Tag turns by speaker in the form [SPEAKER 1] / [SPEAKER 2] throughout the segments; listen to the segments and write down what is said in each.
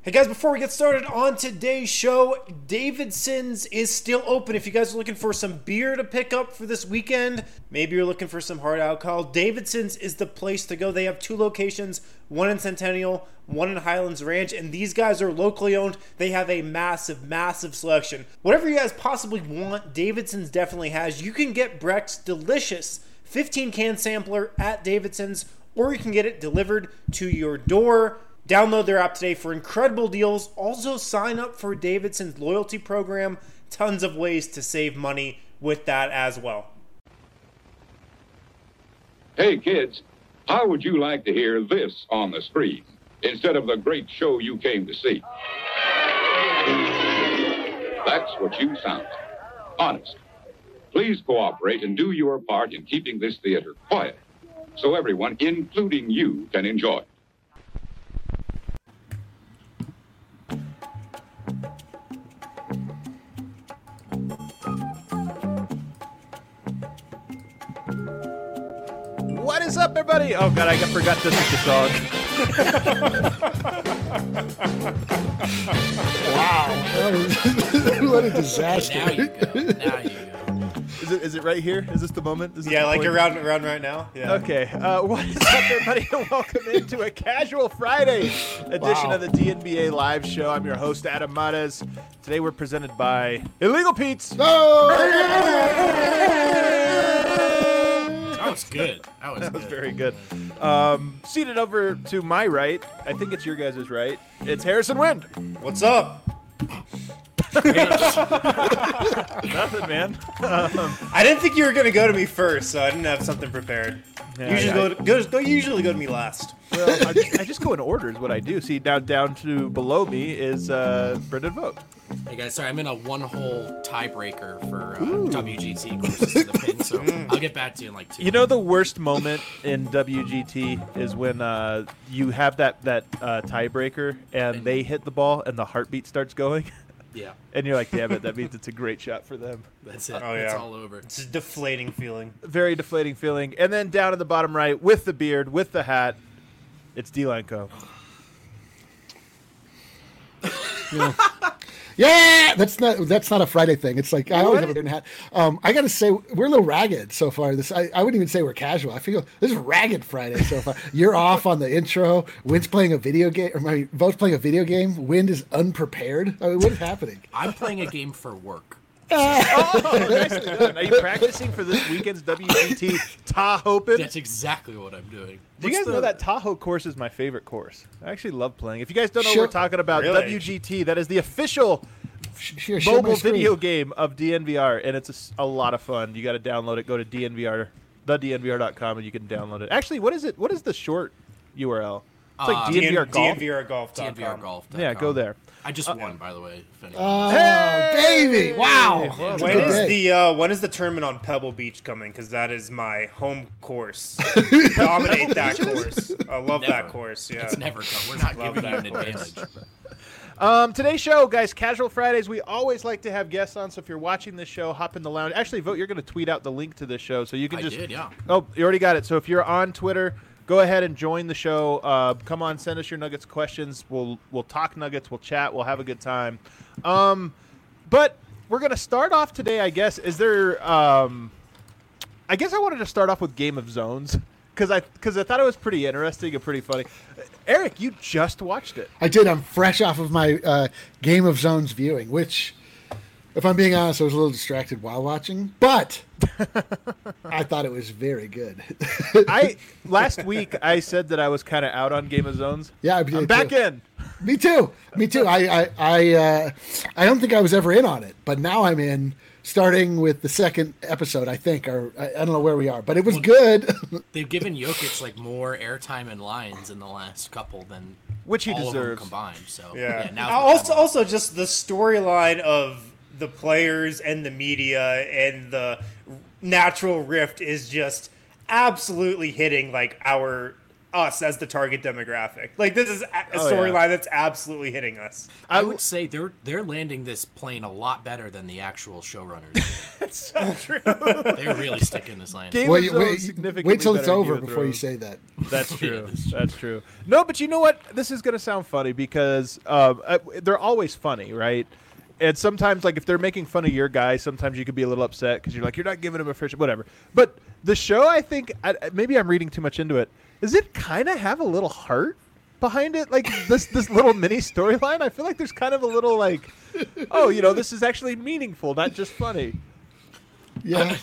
[SPEAKER 1] Hey guys, before we get started on today's show, Davidson's is still open. If you guys are looking for some beer to pick up for this weekend, maybe you're looking for some hard alcohol, Davidson's is the place to go. They have 2 locations, one in Centennial, one in Highlands Ranch, and these guys are locally owned. They have a massive selection. Whatever you guys possibly want, Davidson's definitely has. You can get Breck's delicious 15-can sampler at Davidson's, or you can get it delivered to your door. Download their app today for incredible deals. Also, sign up for Davidson's loyalty program. Tons of ways to save money with that as well.
[SPEAKER 2] Hey, kids, how would you like to hear this on the screen instead of the great show you came to see? That's what you sound like. Honest. Please cooperate and do your part in keeping this theater quiet so everyone, including you, can enjoy it.
[SPEAKER 3] What is up, everybody? Oh, God, I forgot this is the song.
[SPEAKER 4] Wow. What a disaster.
[SPEAKER 5] Now you go.
[SPEAKER 3] Is it right here? Is this the moment? Is this
[SPEAKER 1] Yeah,
[SPEAKER 3] the
[SPEAKER 1] like
[SPEAKER 3] point?
[SPEAKER 1] around right now. Yeah.
[SPEAKER 3] Okay. What is up, everybody? And welcome into a Casual Friday edition of the DNBA Live Show. I'm your host, Adam Mares. Today we're presented by Illegal Pete's.
[SPEAKER 5] That was good.
[SPEAKER 3] That was very good. Seated over to my right, I think it's your guys' right, it's Harrison Wind.
[SPEAKER 1] What's up?
[SPEAKER 3] Nothing, man.
[SPEAKER 1] I didn't think you were going to go to me first, so I didn't have something prepared. Usually go to me last.
[SPEAKER 3] Well, I just go in order is what I do. See, down to below me is Brendan Vogt.
[SPEAKER 5] Hey guys, sorry, I'm in a one-hole tiebreaker for WGT courses to the pin, so I'll get back to you in like 2
[SPEAKER 3] You know the worst moment in WGT is when you have that tiebreaker and they hit the ball and the heartbeat starts going.
[SPEAKER 5] Yeah,
[SPEAKER 3] And you're like, damn it, that means it's a great shot for them.
[SPEAKER 5] that's it.
[SPEAKER 1] Oh,
[SPEAKER 5] It's
[SPEAKER 1] yeah.
[SPEAKER 5] all over.
[SPEAKER 1] It's a deflating feeling.
[SPEAKER 3] Very deflating feeling. And then down in the bottom right, with the beard, with the hat, it's D-Line Co.
[SPEAKER 4] Yeah, that's not a Friday thing. It's like I always have a different hat. I got to say we're a little ragged so far. I wouldn't even say we're casual. I feel this is ragged Friday so far. You're off on the intro. Wind's playing a video game. Vo's playing a video game. Wind is unprepared. I mean, what is happening?
[SPEAKER 5] I'm playing a game for work.
[SPEAKER 3] Oh, nicely done. Are you practicing for this weekend's WGT Tahoe Open?
[SPEAKER 5] That's exactly what I'm doing.
[SPEAKER 3] Do you guys know that Tahoe course is my favorite course? I actually love playing. If you guys don't know
[SPEAKER 4] Sure.
[SPEAKER 3] what we're talking about,
[SPEAKER 1] Really?
[SPEAKER 3] WGT, that is the official
[SPEAKER 4] Share my
[SPEAKER 3] mobile
[SPEAKER 4] screen.
[SPEAKER 3] video game of DNVR, and it's a lot of fun. You got to download it. Go to thednvr.com, and you can download it. Actually, what is it? What is the short URL? It's like DNVR Golf.
[SPEAKER 1] DNVRGolf.com.
[SPEAKER 5] DNVRGolf.com.
[SPEAKER 3] Yeah, go there.
[SPEAKER 5] I just won, by the way. If anyone
[SPEAKER 4] Oh,
[SPEAKER 5] knows.
[SPEAKER 4] baby! Wow.
[SPEAKER 3] Well,
[SPEAKER 4] It's a
[SPEAKER 1] When
[SPEAKER 4] good
[SPEAKER 1] is
[SPEAKER 4] day.
[SPEAKER 1] when is the tournament on Pebble Beach coming? Because that is my home course. Dominate that course. I love that
[SPEAKER 5] Never.
[SPEAKER 1] course. Yeah.
[SPEAKER 5] It's never come. We're not
[SPEAKER 1] Love
[SPEAKER 5] giving you an
[SPEAKER 1] that course.
[SPEAKER 5] advantage.
[SPEAKER 3] Today's show, guys, Casual Fridays. We always like to have guests on, so if you're watching this show, hop in the lounge. Actually, Vote, you're going to tweet out the link to this show, so you can
[SPEAKER 5] I
[SPEAKER 3] just...
[SPEAKER 5] did, yeah.
[SPEAKER 3] Oh, you already got it. So if you're on Twitter, go ahead and join the show. Come on, send us your Nuggets questions. We'll talk Nuggets. We'll chat. We'll have a good time. But we're going to start off today, I guess. Is there... I guess I wanted to start off with Game of Zones because I thought it was pretty interesting and pretty funny. Eric, you just watched it.
[SPEAKER 4] I did. I'm fresh off of my Game of Zones viewing, which, if I'm being honest, I was a little distracted while watching, but I thought it was very good.
[SPEAKER 3] Last week I said that I was kind of out on Game of Zones.
[SPEAKER 4] Yeah, I
[SPEAKER 3] I'm
[SPEAKER 4] did
[SPEAKER 3] back
[SPEAKER 4] too.
[SPEAKER 3] in.
[SPEAKER 4] Me too. I don't think I was ever in on it, but now I'm in. Starting with the second episode, I think, or I don't know where we are, but it was good.
[SPEAKER 5] They've given Jokic like more airtime and lines in the last couple than
[SPEAKER 3] Which he
[SPEAKER 5] all of them
[SPEAKER 3] deserves.
[SPEAKER 5] combined. So
[SPEAKER 1] Yeah.
[SPEAKER 5] now
[SPEAKER 1] Also, just the storyline of the players and the media and the natural rift is just absolutely hitting like our us as the target demographic. Like, this is a
[SPEAKER 3] Oh, yeah.
[SPEAKER 1] storyline that's absolutely hitting us.
[SPEAKER 5] I would say they're landing this plane a lot better than the actual showrunners.
[SPEAKER 3] That's so true.
[SPEAKER 5] They're really sticking this landing.
[SPEAKER 3] Game
[SPEAKER 4] Wait,
[SPEAKER 3] of Thrones
[SPEAKER 4] wait,
[SPEAKER 3] significantly
[SPEAKER 4] wait till it's
[SPEAKER 3] better than
[SPEAKER 4] over
[SPEAKER 3] Game of
[SPEAKER 4] before you
[SPEAKER 3] Thrones.
[SPEAKER 4] say that.
[SPEAKER 3] That's true.
[SPEAKER 5] that's true.
[SPEAKER 3] That's true. No, but you know what? This is going to sound funny because they're always funny, right? And sometimes, like, if they're making fun of your guy, sometimes you could be a little upset because you're like, you're not giving him a fair shake, whatever. But the show, I think, maybe I'm reading too much into it, does it kind of have a little heart behind it? Like, this little mini storyline? I feel like there's kind of a little, like, oh, you know, this is actually meaningful, not just funny.
[SPEAKER 4] Yeah.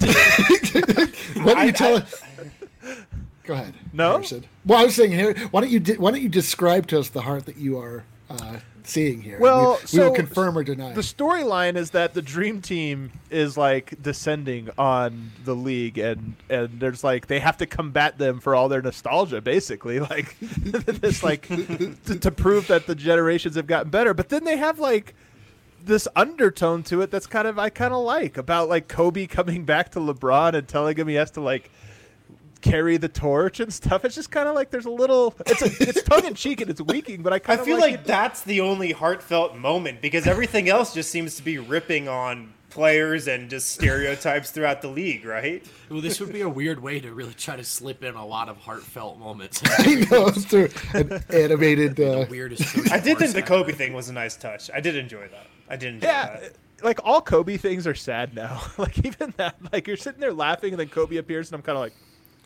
[SPEAKER 4] Why don't you tell us? Go ahead.
[SPEAKER 3] No?
[SPEAKER 4] Harrison. Well, I was saying here. Why don't you describe to us the heart that you are seeing here?
[SPEAKER 3] Well,
[SPEAKER 4] we will
[SPEAKER 3] so
[SPEAKER 4] confirm or deny.
[SPEAKER 3] The storyline is that the Dream Team is like descending on the league, and there's like they have to combat them for all their nostalgia, basically, like this like to prove that the generations have gotten better. But then they have like this undertone to it that's kind of like about like Kobe coming back to LeBron and telling him he has to like carry the torch and stuff. It's just kind of like there's a little it's tongue in cheek and it's weaking, but I
[SPEAKER 1] feel like that's the only heartfelt moment because everything else just seems to be ripping on players and just stereotypes throughout the league, right?
[SPEAKER 5] Well, this would be a weird way to really try to slip in a lot of heartfelt moments.
[SPEAKER 4] I know through an animated.
[SPEAKER 5] The weirdest.
[SPEAKER 1] I did think the Kobe thing was a nice touch. I did enjoy that. That.
[SPEAKER 3] Like all Kobe things are sad now. Like even that, like you're sitting there laughing and then Kobe appears and I'm kind of like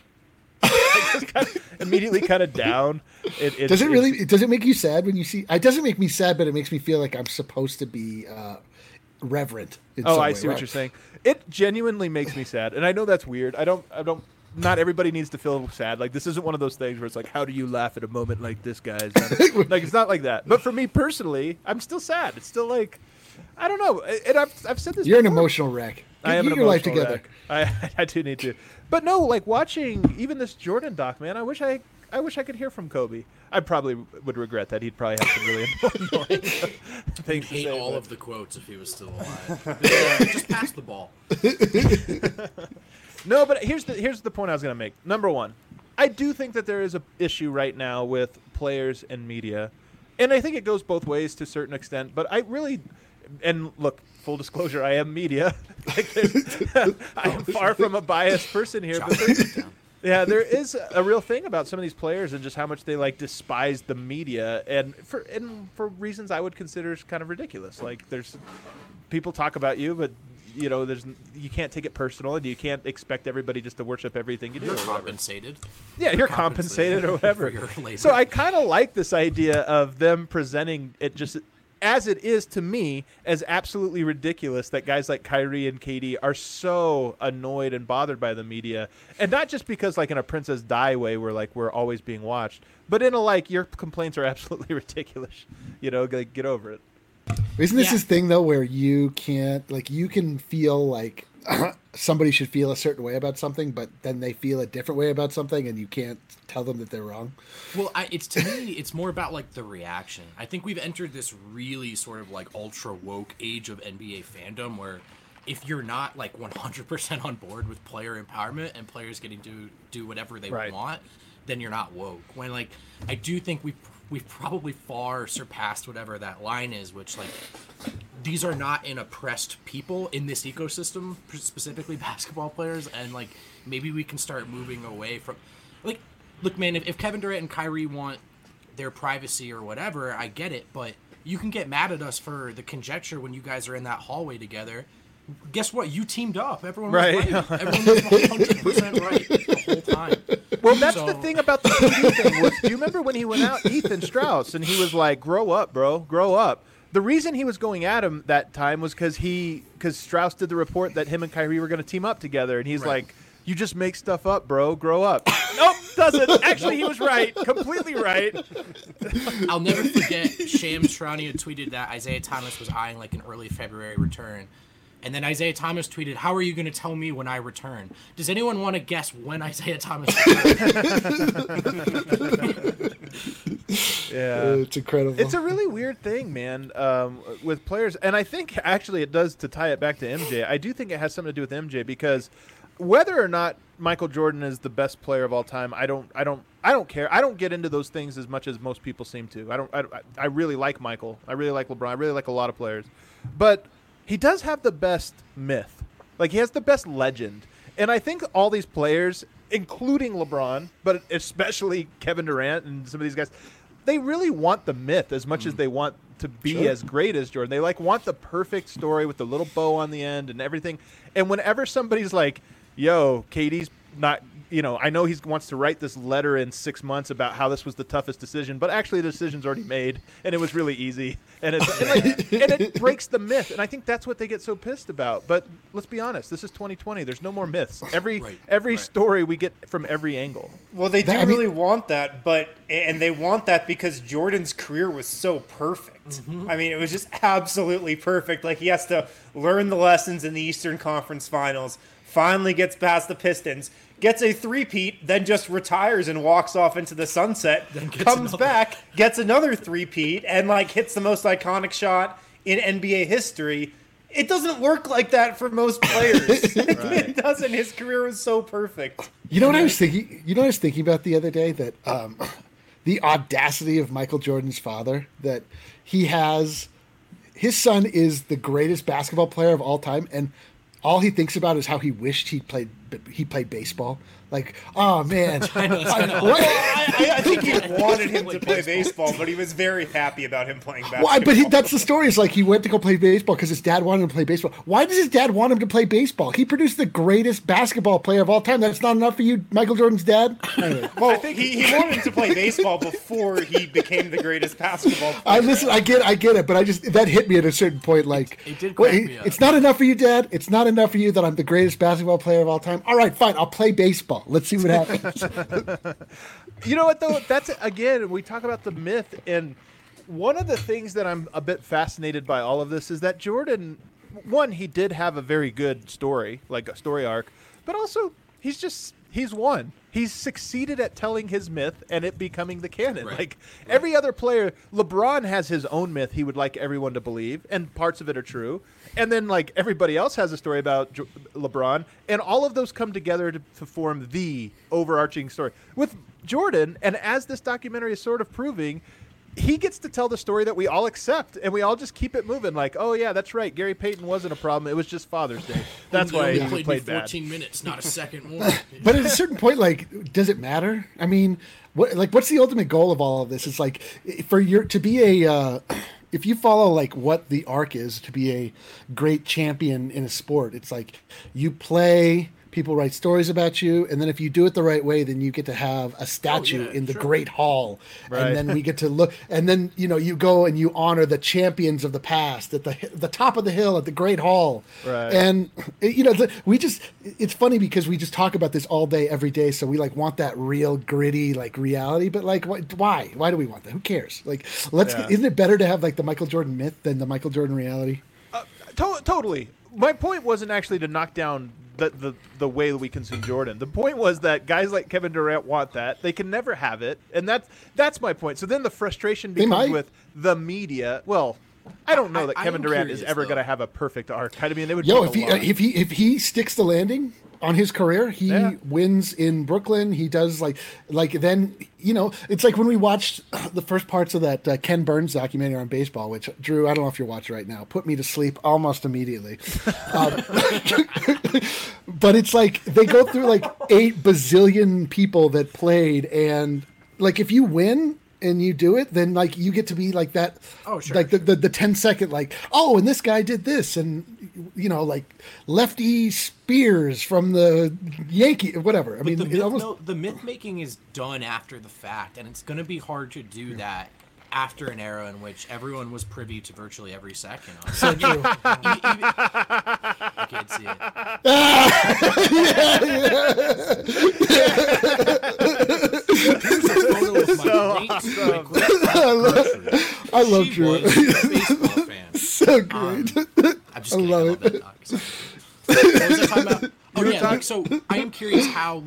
[SPEAKER 3] just kind of immediately kind of down.
[SPEAKER 4] Does it make you sad when you see? It doesn't make me sad, but it makes me feel like I'm supposed to be reverent.
[SPEAKER 3] I see what you're saying. It genuinely makes me sad, and I know that's weird. I don't. Not everybody needs to feel sad. Like this isn't one of those things where it's like, how do you laugh at a moment like this, guys? Like it's not like that. But for me personally, I'm still sad. It's still like, I don't know. And I've said this.
[SPEAKER 4] You're
[SPEAKER 3] before.
[SPEAKER 4] an emotional wreck.
[SPEAKER 3] I am
[SPEAKER 4] Get
[SPEAKER 3] an
[SPEAKER 4] your life
[SPEAKER 3] emotional
[SPEAKER 4] together.
[SPEAKER 3] wreck. I do need to. But no, like watching even this Jordan doc, man. I wish I could hear from Kobe. I probably would regret that. He'd probably have some really annoying things to
[SPEAKER 5] Hate
[SPEAKER 3] say.
[SPEAKER 5] all
[SPEAKER 3] but-
[SPEAKER 5] of the quotes if he was still alive. Just pass the ball.
[SPEAKER 3] No, but here's the point I was going to make. Number one, I do think that there is a issue right now with players and media, and I think it goes both ways to a certain extent. But I really, and look, full disclosure, I am media. I am far from a biased person here, but there is a real thing about some of these players and just how much they like despise the media, and for reasons I would consider kind of ridiculous. Like there's people talk about you, but you know, you can't take it personal, and you can't expect everybody just to worship everything you do.
[SPEAKER 5] You're
[SPEAKER 3] or whatever.
[SPEAKER 5] compensated.
[SPEAKER 3] Yeah, you're compensated or whatever.
[SPEAKER 5] for your labor.
[SPEAKER 3] So I kind of like this idea of them presenting it just as it is to me as absolutely ridiculous that guys like Kyrie and KD are so annoyed and bothered by the media, and not just because like in a Princess Di way where like we're always being watched, but in a like your complaints are absolutely ridiculous. You know, like get over it.
[SPEAKER 4] Isn't this thing though where you can't you can feel like somebody should feel a certain way about something, but then they feel a different way about something, and you can't tell them that they're wrong?
[SPEAKER 5] Well, to me, it's more about like the reaction. I think we've entered this really sort of like ultra woke age of NBA fandom where if you're not like 100% on board with player empowerment and players getting to do whatever they want, then you're not woke. When like I do think we've probably far surpassed whatever that line is, which like these are not an oppressed people in this ecosystem, specifically basketball players, and like maybe we can start moving away from like look, man, if Kevin Durant and Kyrie want their privacy or whatever, I get it, but you can get mad at us for the conjecture when you guys are in that hallway together. Guess what? You teamed up. Everyone was right. Everyone was 100% right the whole time.
[SPEAKER 3] Well, that's the thing about the KD thing was, do you remember when he went out, Ethan Strauss, and he was like, grow up, bro, grow up. The reason he was going at him that time was because Strauss did the report that him and Kyrie were going to team up together, and he's like, you just make stuff up, bro, grow up. Nope, doesn't. Actually, he was right, completely right.
[SPEAKER 5] I'll never forget Shams Charania tweeted that Isaiah Thomas was eyeing like an early February return. And then Isaiah Thomas tweeted, how are you going to tell me when I return? Does anyone want to guess when Isaiah Thomas returned?
[SPEAKER 3] Yeah.
[SPEAKER 4] It's incredible.
[SPEAKER 3] It's a really weird thing, man, with players. And I think actually it does, to tie it back to MJ, I do think it has something to do with MJ because whether or not Michael Jordan is the best player of all time, I I don't care. I don't get into those things as much as most people seem to. I really like Michael. I really like LeBron. I really like a lot of players. But he does have the best myth. Like, he has the best legend. And I think all these players, including LeBron, but especially Kevin Durant and some of these guys, they really want the myth as much as they want to be as great as Jordan. They want the perfect story with the little bow on the end and everything. And whenever somebody's like, yo, KD's not, I know he wants to write this letter in 6 months about how this was the toughest decision, but actually the decision's already made and it was really easy. And it breaks the myth. And I think that's what they get so pissed about. But let's be honest, this is 2020. There's no more myths. Every story we get from every angle.
[SPEAKER 1] Well, they do really want that, and they want that because Jordan's career was so perfect. Mm-hmm. I mean, it was just absolutely perfect. Like, he has to learn the lessons in the Eastern Conference Finals, finally gets past the Pistons, gets a three-peat, then just retires and walks off into the sunset, comes back, gets another three-peat, and hits the most iconic shot in NBA history. It doesn't work like that for most players. It doesn't. His career was so perfect.
[SPEAKER 4] You know what I was thinking? You know what I was thinking about the other day? That the audacity of Michael Jordan's father, that his son is the greatest basketball player of all time, and all he thinks about is how he wished he played baseball. Like, oh man,
[SPEAKER 1] I think he wanted him to play baseball, but he was very happy about him playing basketball.
[SPEAKER 4] Well, but that's the story. It's like he went to go play baseball because his dad wanted him to play baseball. Why does his dad want him to play baseball? He produced the greatest basketball player of all time. That's not enough for you, Michael Jordan's dad? Anyway.
[SPEAKER 1] Well, I think he wanted him to play baseball before he became the greatest basketball player.
[SPEAKER 4] I get it, but that hit me at a certain point. Like,
[SPEAKER 5] it did crack me up.
[SPEAKER 4] It's not enough for you, Dad. It's not enough for you that I'm the greatest basketball player of all time. All right, fine. I'll play baseball. Let's see what happens.
[SPEAKER 3] You know what, though? That's, again, we talk about the myth, and one of the things that I'm a bit fascinated by all of this is that Jordan, one, he did have a very good story, like a story arc, but also he's won. He's succeeded at telling his myth and it becoming the canon. Right. Every other player, LeBron has his own myth he would like everyone to believe, and parts of it are true. And then everybody else has a story about LeBron, and all of those come together to form the overarching story. With Jordan, and as this documentary is sort of proving, he gets to tell the story that we all accept, and we all just keep it moving. Like, oh yeah, that's right. Gary Payton wasn't a problem. It was just Father's Day. That's why he played bad.
[SPEAKER 5] 14 minutes, not a second more.
[SPEAKER 4] But at a certain point, does it matter? I mean, what's the ultimate goal of all of this? It's like if you follow what the arc is to be a great champion in a sport, it's like you play. People write stories about you, and then if you do it the right way, then you get to have a statue in the Great Hall, and then we get to look, and then you go and you honor the champions of the past at the top of the hill at the Great Hall, and it's funny because we just talk about this all day, every day, so we want that real gritty reality, but why do we want that? Who cares? Isn't it better to have the Michael Jordan myth than the Michael Jordan reality?
[SPEAKER 3] Totally. My point wasn't actually to knock down the way that we consume Jordan. The point was that guys like Kevin Durant want that. They can never have it, and that's my point. So then the frustration becomes with the media. Well, I don't know that Kevin Durant is ever going to have a perfect arc. I mean, it would.
[SPEAKER 4] If he sticks the landing on his career, he wins in Brooklyn. He does then it's like when we watched the first parts of that Ken Burns documentary on baseball, which Drew, I don't know if you're watching right now, put me to sleep almost immediately. But it's they go through 8 bazillion people that played, and if you win and you do it, then you get to be that.
[SPEAKER 5] Oh, sure.
[SPEAKER 4] The 10-second and this guy did this, and Lefty Spears from the Yankee, whatever. I mean,
[SPEAKER 5] the myth making is done after the fact, and it's going to be hard to do that after an era in which everyone was privy to virtually every second.
[SPEAKER 4] So true.
[SPEAKER 5] I can't see it.
[SPEAKER 4] I love Drew.
[SPEAKER 5] Baseball fan.
[SPEAKER 4] So great.
[SPEAKER 5] I'm just kidding. I love that doc. So. What was I talking about? Oh yeah, so I am curious how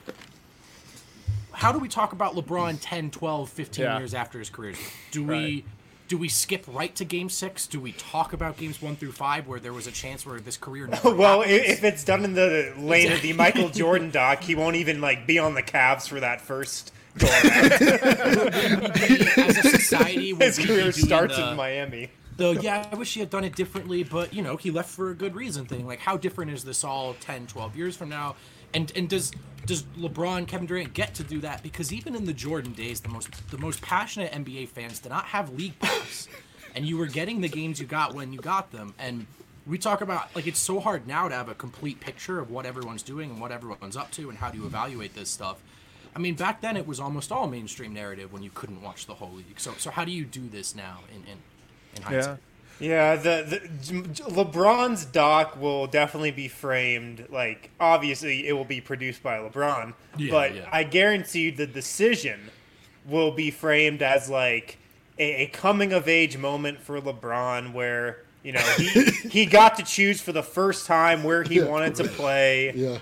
[SPEAKER 5] do we talk about LeBron 10, 12, 15 years after his career? Do we skip right to Game 6? Do we talk about Games 1 through 5 where there was a chance where this career never
[SPEAKER 1] Well, if it's done in the lane of the Michael Jordan doc, he won't even be on the Cavs for that first
[SPEAKER 5] As a society, would
[SPEAKER 1] His
[SPEAKER 5] we be
[SPEAKER 1] career
[SPEAKER 5] doing
[SPEAKER 1] starts
[SPEAKER 5] the-
[SPEAKER 1] in Miami.
[SPEAKER 5] yeah, I wish he had done it differently, but, you know, he left for a good reason thing. Like, how different is this all 10, 12 years from now? And does LeBron, Kevin Durant get to do that? Because even in the Jordan days, the most passionate NBA fans did not have league pass. And you were getting the games you got when you got them. And we talk about, like, it's so hard now to have a complete picture of what everyone's doing and what everyone's up to and how do you evaluate this stuff. I mean, back then it was almost all mainstream narrative when you couldn't watch the whole league. So how do you do this now in hindsight?
[SPEAKER 1] Yeah, the LeBron's doc will definitely be framed like, obviously it will be produced by LeBron, but I guarantee you the decision will be framed as like a coming of age moment for LeBron where, you know, he got to choose for the first time where he wanted to play.
[SPEAKER 4] Yeah.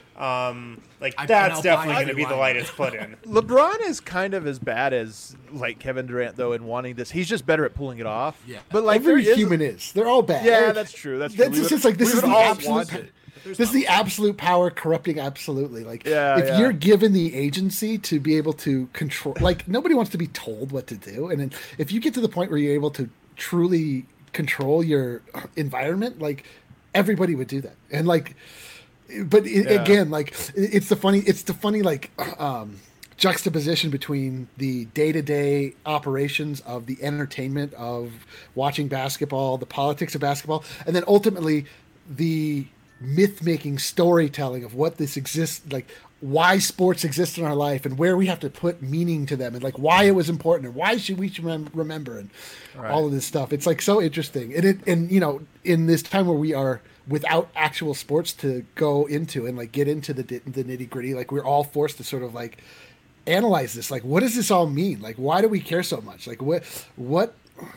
[SPEAKER 1] That's definitely going to be the light it's put in.
[SPEAKER 3] LeBron is kind of as bad as like Kevin Durant though in wanting this. He's just better at pulling it off.
[SPEAKER 5] Yeah.
[SPEAKER 3] But like
[SPEAKER 4] Every
[SPEAKER 3] there is-
[SPEAKER 4] human is. They're all bad.
[SPEAKER 3] Yeah, that's true. That's true.
[SPEAKER 4] That's just like this is the absolute.
[SPEAKER 3] It.
[SPEAKER 4] This is the absolute power corrupting absolutely. Like
[SPEAKER 3] Yeah,
[SPEAKER 4] if
[SPEAKER 3] yeah.
[SPEAKER 4] you're given the agency to be able to control, like nobody wants to be told what to do, and then if you get to the point where you're able to truly control your environment, like everybody would do that, and like. But again, like it's the funny like juxtaposition between the day-to-day operations of the entertainment of watching basketball, the politics of basketball, and then ultimately the myth-making storytelling of what this exists, like why sports exist in our life and where we have to put meaning to them and like why it was important and why should we remember and all of this stuff. It's like so interesting. And you know, in this time where we are without actual sports to go into and like get into the nitty gritty, like we're all forced to sort of like analyze this. Like, what does this all mean? Like, why do we care so much? Like, what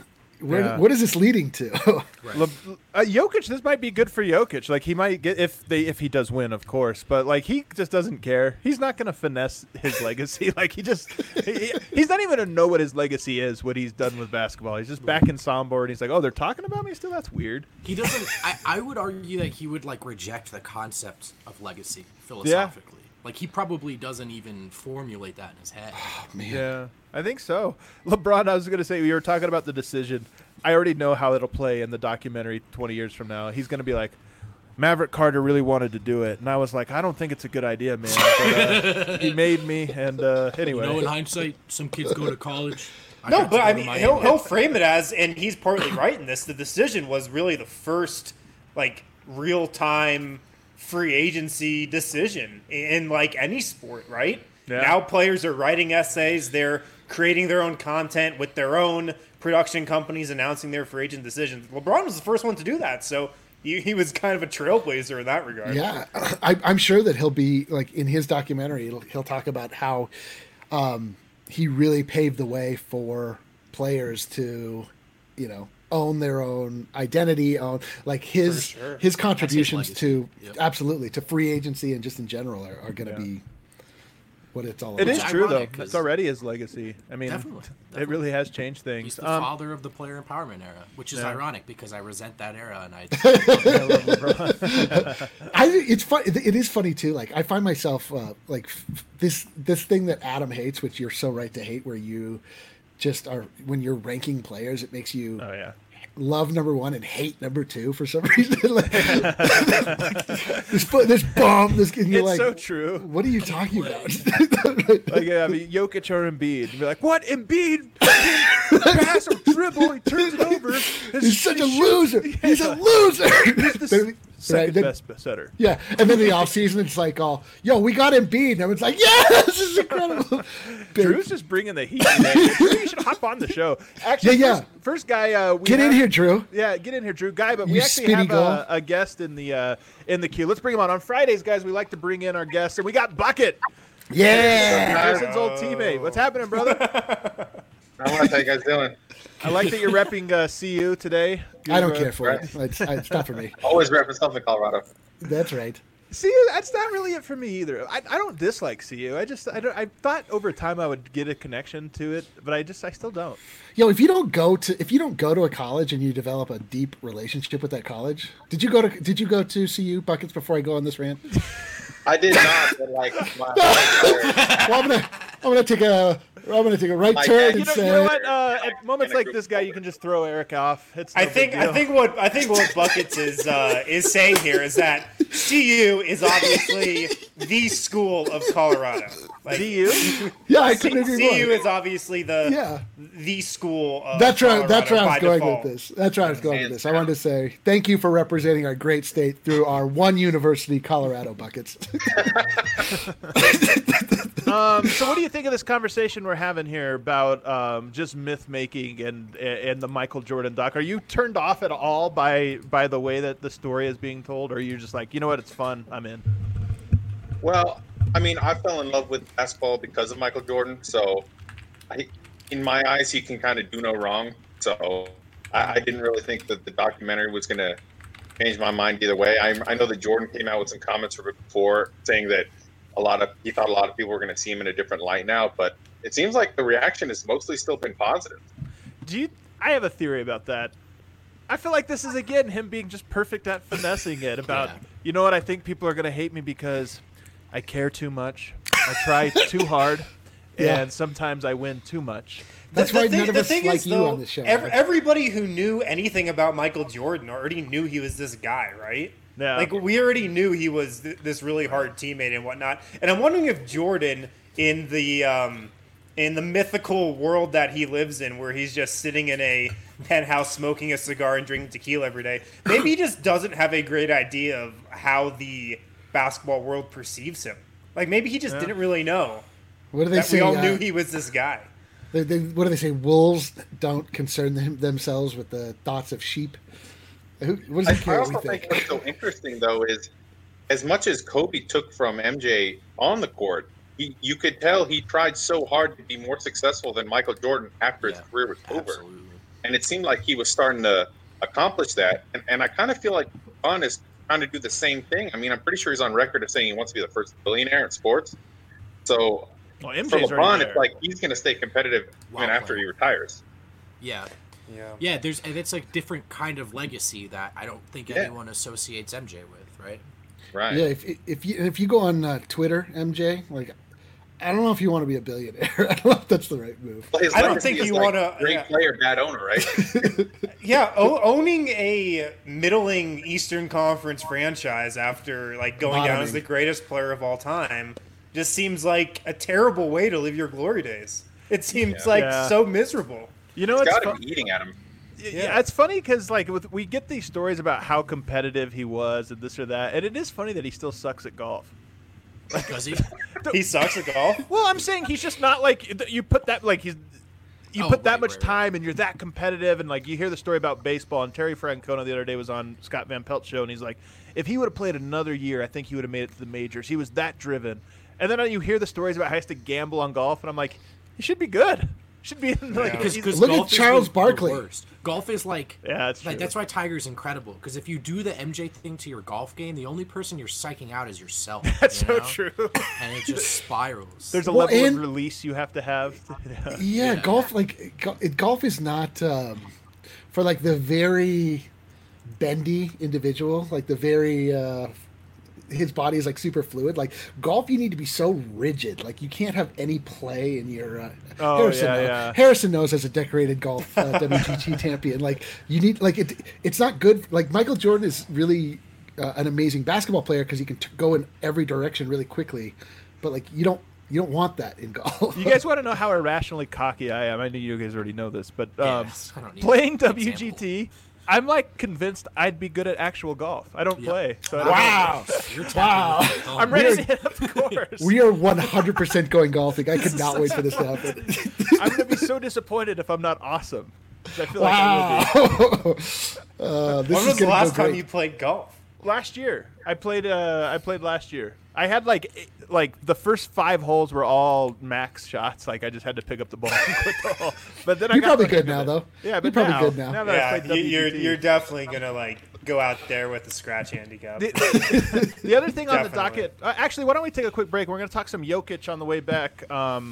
[SPEAKER 4] is this leading to?
[SPEAKER 3] Jokic, this might be good for Jokic. Like he might get if he does win, of course. But like he just doesn't care. He's not going to finesse his legacy. Like he's not even going to know what his legacy is. What he's done with basketball. He's just back in Sombor and he's like, oh, they're talking about me still. That's weird.
[SPEAKER 5] He doesn't. I would argue that he would like reject the concept of legacy philosophically. Like he probably doesn't even formulate that in his head.
[SPEAKER 4] Oh, man.
[SPEAKER 3] Yeah, I think so. LeBron, I was going to say, we were talking about the decision. I already know how it'll play in the documentary 20 years from now. He's going to be like, Maverick Carter really wanted to do it. And I was like, I don't think it's a good idea, man. But, he made me. And anyway.
[SPEAKER 5] You know, in hindsight, some kids go to college.
[SPEAKER 1] No, but I mean, he'll frame it as, and he's partly right in this, the decision was really the first, like, real-time free agency decision in, like, any sport, right?
[SPEAKER 3] Yeah.
[SPEAKER 1] Now players are writing essays, they're creating their own content with their own production companies announcing their free agent decisions. LeBron was the first one to do that, so he was kind of a trailblazer in that regard.
[SPEAKER 4] Yeah, I'm sure that he'll be, like, in his documentary, he'll talk about how he really paved the way for players to, you know, own their own identity, own like his contributions to absolutely to free agency and just in general are going to be what it's all about.
[SPEAKER 3] It is true, though.
[SPEAKER 5] ironic, 'cause-
[SPEAKER 3] It's already his legacy. I mean,
[SPEAKER 5] Definitely.
[SPEAKER 3] it really has changed things.
[SPEAKER 5] He's the father of the player empowerment era, which is ironic because I resent that era and I.
[SPEAKER 4] It's fun. It is funny too. Like I find myself like this thing that Adam hates, which you're so right to hate, where you just are when you're ranking players, it makes you
[SPEAKER 3] Oh, yeah.
[SPEAKER 4] love number one and hate number two for some reason. Like, this bomb. This and you're
[SPEAKER 3] It's
[SPEAKER 4] like,
[SPEAKER 3] so true.
[SPEAKER 4] What are you talking about?
[SPEAKER 3] Like, yeah, I mean, Jokic or Embiid. You'd be like, what? Embiid? Pass or dribble. He turns it over.
[SPEAKER 4] He's such a loser. He's a loser.
[SPEAKER 3] He's the second best setter.
[SPEAKER 4] Yeah, and then the offseason, it's like, yo, we got Embiid. And everyone's like, yeah, this is incredible.
[SPEAKER 3] Drew's just bringing the heat today. Drew, you should hop on the show. Actually,
[SPEAKER 4] Yeah.
[SPEAKER 3] First guy.
[SPEAKER 4] Get in here, Drew.
[SPEAKER 3] Yeah, get in here, Drew. Guy, but we
[SPEAKER 4] You
[SPEAKER 3] actually
[SPEAKER 4] spinny
[SPEAKER 3] have
[SPEAKER 4] goal.
[SPEAKER 3] a guest in the queue. Let's bring him on Fridays, guys. We like to bring in our guests, and we got Bucket,
[SPEAKER 4] Yeah.
[SPEAKER 3] Harrison's old teammate. What's happening, brother?
[SPEAKER 6] How are you guys doing?
[SPEAKER 3] I like that you're repping CU today.
[SPEAKER 4] I don't care for it. It's not for me.
[SPEAKER 6] Always repping something, Colorado.
[SPEAKER 4] That's right.
[SPEAKER 3] CU, that's not really it for me either. I don't dislike CU. I thought over time I would get a connection to it, but I still don't.
[SPEAKER 4] Yo, if you don't go to a college and you develop a deep relationship with that college, did you go to CU Buckets before I go on this rant?
[SPEAKER 6] I did not, but like,
[SPEAKER 4] Well, gonna take a right
[SPEAKER 6] My
[SPEAKER 4] turn
[SPEAKER 6] dad-
[SPEAKER 4] and
[SPEAKER 3] You
[SPEAKER 4] say,
[SPEAKER 3] know what? At moments like this, guy, you can just throw Eric off. It's no
[SPEAKER 1] I think
[SPEAKER 3] big deal.
[SPEAKER 1] what Buckets is saying here is that CU is obviously the school of Colorado. Like,
[SPEAKER 3] DU.
[SPEAKER 4] yeah, I couldn't agree
[SPEAKER 1] CU
[SPEAKER 4] more.
[SPEAKER 1] is obviously the school of
[SPEAKER 4] That's right.
[SPEAKER 1] Colorado
[SPEAKER 4] That's where I
[SPEAKER 1] by
[SPEAKER 4] was going
[SPEAKER 1] default.
[SPEAKER 4] with this. That's where I was going with this. I wanted to say thank you for representing our great state through our one university, Colorado Buckets.
[SPEAKER 3] So what do you think of this conversation we're having here about just myth making and the Michael Jordan doc? Are you turned off at all by the way that the story is being told, or are you just like, you know what, it's fun, I'm in?
[SPEAKER 6] Well, I mean, I fell in love with basketball because of Michael Jordan. So, in my eyes, he can kind of do no wrong. So, I didn't really think that the documentary was going to change my mind either way. I know that Jordan came out with some comments before saying that he thought a lot of people were going to see him in a different light now, but it seems like the reaction has mostly still been positive.
[SPEAKER 3] I have a theory about that. I feel like this is again him being just perfect at finessing it about, you know what, I think people are going to hate me because I care too much, I try too hard, and sometimes I win too much.
[SPEAKER 4] That's why none of us like you on this show.
[SPEAKER 1] Everybody who knew anything about Michael Jordan already knew he was this guy, right?
[SPEAKER 3] Yeah.
[SPEAKER 1] Like, we already knew he was this really hard teammate and whatnot. And I'm wondering if Jordan, in the mythical world that he lives in, where he's just sitting in a penthouse smoking a cigar and drinking tequila every day, maybe he just doesn't have a great idea of how the basketball world perceives him. Like, maybe he just didn't really know.
[SPEAKER 4] What do they
[SPEAKER 1] that
[SPEAKER 4] say?
[SPEAKER 1] we all knew he was this guy.
[SPEAKER 4] What do they say? Wolves don't concern themselves with the thoughts of sheep. What does he
[SPEAKER 6] I
[SPEAKER 4] care what
[SPEAKER 6] also
[SPEAKER 4] we
[SPEAKER 6] think
[SPEAKER 4] think?
[SPEAKER 6] what's so interesting, though, is as much as Kobe took from MJ on the court, you could tell he tried so hard to be more successful than Michael Jordan after his career was over.
[SPEAKER 5] Absolutely.
[SPEAKER 6] And it seemed like he was starting to accomplish that. And I kind of feel like LeBron is trying to do the same thing. I mean, I'm pretty sure he's on record of saying he wants to be the first billionaire in sports. So
[SPEAKER 3] Well,
[SPEAKER 6] for
[SPEAKER 3] MJ's
[SPEAKER 6] LeBron,
[SPEAKER 3] already
[SPEAKER 6] it's
[SPEAKER 3] there.
[SPEAKER 6] like he's going to stay competitive even after he retires.
[SPEAKER 5] Yeah.
[SPEAKER 1] Yeah.
[SPEAKER 5] And it's a different kind of legacy that I don't think anyone associates MJ with, right?
[SPEAKER 6] Right.
[SPEAKER 4] Yeah, if you go on Twitter, MJ, like, I don't know if you want to be a billionaire. I don't know if that's the right move.
[SPEAKER 6] Well, his
[SPEAKER 1] I don't
[SPEAKER 6] legacy
[SPEAKER 1] think
[SPEAKER 6] is
[SPEAKER 1] you
[SPEAKER 6] like
[SPEAKER 1] wanna-
[SPEAKER 6] great player, bad owner, right?
[SPEAKER 1] Yeah, owning a middling Eastern Conference franchise after like going down as the greatest player of all time just seems like a terrible way to live your glory days. It seems like so miserable.
[SPEAKER 3] You know,
[SPEAKER 6] It's
[SPEAKER 3] it's
[SPEAKER 6] got to be eating at him.
[SPEAKER 3] Yeah, it's funny because like we get these stories about how competitive he was and this or that, and it is funny that he still sucks at golf.
[SPEAKER 5] Does he?
[SPEAKER 1] He sucks at golf.
[SPEAKER 3] Well, I'm saying he's just not like you put that like he's you put that much time and you're that competitive, and like you hear the story about baseball, and Terry Francona the other day was on Scott Van Pelt's show, and he's like, if he would have played another year, I think he would have made it to the majors. He was that driven. And then you hear the stories about how he has to gamble on golf, and I'm like, he should be good. Should be in, like
[SPEAKER 5] Because
[SPEAKER 4] Look at
[SPEAKER 5] golf is
[SPEAKER 4] Charles
[SPEAKER 5] the
[SPEAKER 4] Barkley.
[SPEAKER 5] worst. Golf is like
[SPEAKER 3] that's true.
[SPEAKER 5] like that's why Tiger's incredible. Because if you do the MJ thing to your golf game, the only person you're psyching out is yourself.
[SPEAKER 3] That's
[SPEAKER 5] you
[SPEAKER 3] so
[SPEAKER 5] know?
[SPEAKER 3] true.
[SPEAKER 5] And it just spirals.
[SPEAKER 3] There's a
[SPEAKER 4] Well,
[SPEAKER 3] level
[SPEAKER 4] and-
[SPEAKER 3] of release you have to have.
[SPEAKER 4] Yeah, golf golf is not for like the very bendy individual, like the very his body is like super fluid. Like golf, you need to be so rigid. Like you can't have any play in your. Harrison knows as a decorated golf WGT champion. Like you need like it's not good. Like Michael Jordan is really an amazing basketball player because he can go in every direction really quickly, but like you don't want that in golf.
[SPEAKER 3] You guys want to know how irrationally cocky I am? I know you guys already know this, but
[SPEAKER 5] Yes, I don't need
[SPEAKER 3] playing
[SPEAKER 5] an
[SPEAKER 3] WGT, I'm like convinced I'd be good at actual golf. I don't play. So I don't
[SPEAKER 4] Wow.
[SPEAKER 5] You're
[SPEAKER 4] Wow.
[SPEAKER 5] tapping-
[SPEAKER 3] I'm ready to hit up the course.
[SPEAKER 4] We are 100% going golfing. I could not wait for this to happen.
[SPEAKER 3] I'm going to be so disappointed if I'm not awesome. 'Cause I feel like I will be.
[SPEAKER 4] Wow. This
[SPEAKER 1] When
[SPEAKER 4] is
[SPEAKER 1] was the
[SPEAKER 4] gonna
[SPEAKER 1] last
[SPEAKER 4] go
[SPEAKER 1] time
[SPEAKER 4] great.
[SPEAKER 1] you played golf?
[SPEAKER 3] Last year, I played last year. I had like the first 5 holes were all max shots. Like I just had to pick up the ball and quit the hole. But then I
[SPEAKER 4] You're
[SPEAKER 3] got
[SPEAKER 4] probably
[SPEAKER 3] the
[SPEAKER 4] good
[SPEAKER 3] hang of
[SPEAKER 4] now,
[SPEAKER 3] it.
[SPEAKER 4] though.
[SPEAKER 3] Yeah,
[SPEAKER 4] You're
[SPEAKER 3] but
[SPEAKER 4] probably
[SPEAKER 3] now,
[SPEAKER 4] good now.
[SPEAKER 3] Now that I
[SPEAKER 1] Yeah,
[SPEAKER 3] played
[SPEAKER 1] you're
[SPEAKER 3] WGT.
[SPEAKER 1] definitely gonna like go out there with a scratch handicap.
[SPEAKER 3] The other thing on the
[SPEAKER 1] Definitely.
[SPEAKER 3] docket, actually, why don't we take a quick break? We're going to talk some Jokic on the way back,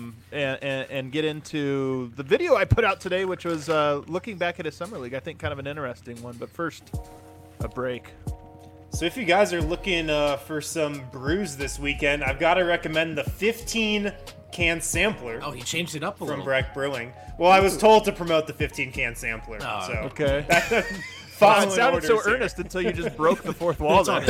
[SPEAKER 3] and get into the video I put out today, which was looking back at his summer league. I think kind of an interesting one. But first, a break.
[SPEAKER 1] So if you guys are looking for some brews this weekend, I've got to recommend the 15 can sampler.
[SPEAKER 5] Oh, he changed it up a
[SPEAKER 1] from
[SPEAKER 5] little.
[SPEAKER 1] Breck Brewing. Well, I was told to promote the 15 can sampler.
[SPEAKER 5] Oh,
[SPEAKER 1] so
[SPEAKER 3] okay.
[SPEAKER 1] Following
[SPEAKER 3] It sounded so
[SPEAKER 1] orders here.
[SPEAKER 3] earnest until you just broke the fourth wall. There.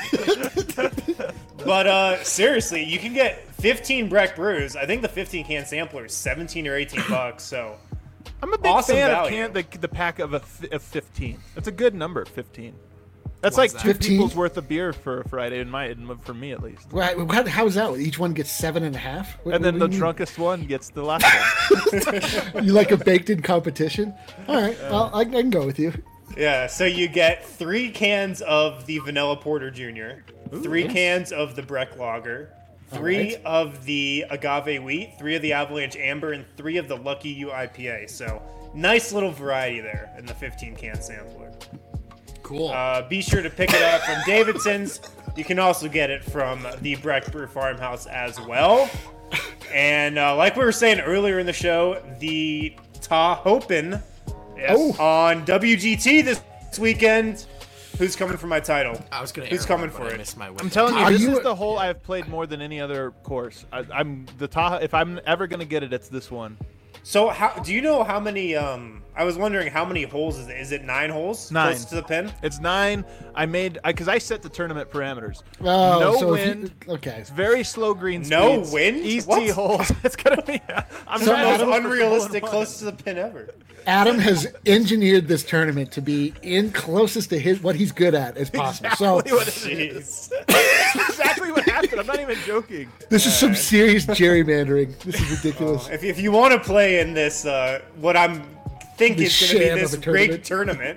[SPEAKER 1] But seriously, you can get 15 Breck brews. I think the 15 can sampler is 17 or 18 bucks. So
[SPEAKER 3] I'm a big
[SPEAKER 1] Awesome
[SPEAKER 3] fan
[SPEAKER 1] value.
[SPEAKER 3] of the pack of 15. That's a good number, 15. That's
[SPEAKER 5] What's
[SPEAKER 3] like
[SPEAKER 5] that?
[SPEAKER 3] 2
[SPEAKER 4] 15?
[SPEAKER 3] people's worth of beer for a Friday, for me at least.
[SPEAKER 4] Right, how is that? Each one gets 7.5? What-
[SPEAKER 3] And then
[SPEAKER 4] what
[SPEAKER 3] the
[SPEAKER 4] do you mean?
[SPEAKER 3] drunkest one gets the last one.
[SPEAKER 4] You like a baked-in competition? All right, well, I can go with you.
[SPEAKER 1] yeah, so you get 3 cans of the Vanilla Porter Jr., 3 cans of the Breck Lager, 3
[SPEAKER 4] right.
[SPEAKER 1] of the Agave Wheat, 3 of the Avalanche Amber, and 3 of the Lucky U IPA. So nice little variety there in the 15 can sampler.
[SPEAKER 5] Cool.
[SPEAKER 1] Be sure to pick it up from Davidson's. You can also get it from the Breck Brew Farmhouse as well. And like we were saying earlier in the show, the Tahopen
[SPEAKER 4] Oh,
[SPEAKER 1] on WGT this weekend. Who's coming for my title?
[SPEAKER 5] I was gonna.
[SPEAKER 1] Who's
[SPEAKER 5] air
[SPEAKER 1] coming
[SPEAKER 5] horn,
[SPEAKER 1] for
[SPEAKER 5] but I
[SPEAKER 1] it?
[SPEAKER 5] missed my
[SPEAKER 3] I'm
[SPEAKER 5] window.
[SPEAKER 3] telling you,
[SPEAKER 4] Are
[SPEAKER 3] this
[SPEAKER 4] you-
[SPEAKER 3] is the hole I've played more than any other course. I'm the Tahoe. If I'm ever gonna get it, it's this one.
[SPEAKER 1] So how do you know how many? I was wondering how many holes is it? Is it 9 holes?
[SPEAKER 3] 9.
[SPEAKER 1] Close to the pin.
[SPEAKER 3] It's 9. Because I set the tournament parameters.
[SPEAKER 4] oh,
[SPEAKER 3] no
[SPEAKER 4] so if you-
[SPEAKER 3] wind.
[SPEAKER 4] okay.
[SPEAKER 3] It's very slow green
[SPEAKER 1] No
[SPEAKER 3] speeds.
[SPEAKER 1] wind?
[SPEAKER 3] Easy
[SPEAKER 1] What?
[SPEAKER 3] holes. It's gonna be. I'm
[SPEAKER 4] So
[SPEAKER 1] The
[SPEAKER 3] trying
[SPEAKER 1] most
[SPEAKER 3] to
[SPEAKER 4] Adam-
[SPEAKER 3] look for
[SPEAKER 1] unrealistic
[SPEAKER 3] hole-in-one.
[SPEAKER 1] close to the pin ever.
[SPEAKER 4] Adam has engineered this tournament to be in closest to what he's good at as possible.
[SPEAKER 3] Exactly
[SPEAKER 4] So
[SPEAKER 3] what it is.
[SPEAKER 1] Jeez.
[SPEAKER 3] Exactly what happened. I'm not even joking.
[SPEAKER 4] this is some serious gerrymandering. This is ridiculous.
[SPEAKER 1] If you want to play in this, what I'm think
[SPEAKER 4] This
[SPEAKER 1] is going to
[SPEAKER 4] sham
[SPEAKER 1] be
[SPEAKER 4] of
[SPEAKER 1] this
[SPEAKER 4] a
[SPEAKER 1] great tournament,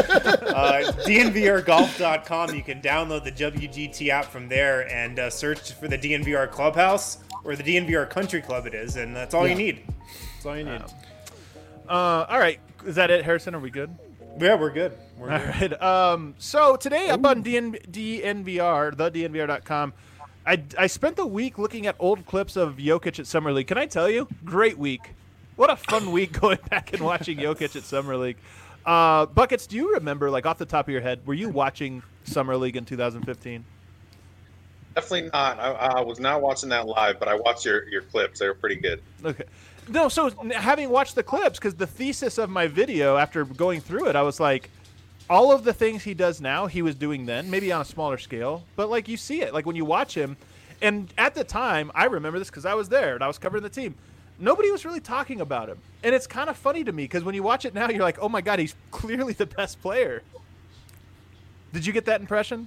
[SPEAKER 1] DNVRgolf.com. You can download the WGT app from there and search for the DNVR Clubhouse or the DNVR Country Club. It is, and that's all you
[SPEAKER 4] Yeah.
[SPEAKER 1] need. That's all you need.
[SPEAKER 3] All right. Is that it, Harrison? Are we good?
[SPEAKER 1] Yeah, we're good. We're
[SPEAKER 3] All
[SPEAKER 1] good.
[SPEAKER 3] right. So today up on DNVR, thednvr.com, I spent the week looking at old clips of Jokic at Summer League. Can I tell you? Great week. What a fun week going back and watching Jokic at Summer League. Buckets, do you remember, like off the top of your head, were you watching Summer League in 2015?
[SPEAKER 6] Definitely not. I was not watching that live, but I watched your clips. They were pretty good.
[SPEAKER 3] Okay. No, so having watched the clips, because the thesis of my video after going through it, I was like, all of the things he does now, he was doing then, maybe on a smaller scale. But, like, you see it. Like, when you watch him, and at the time, I remember this because I was there and I was covering the team. Nobody was really talking about him. And it's kind of funny to me because when you watch it now, you're like, oh, my God, he's clearly the best player. Did you get that impression?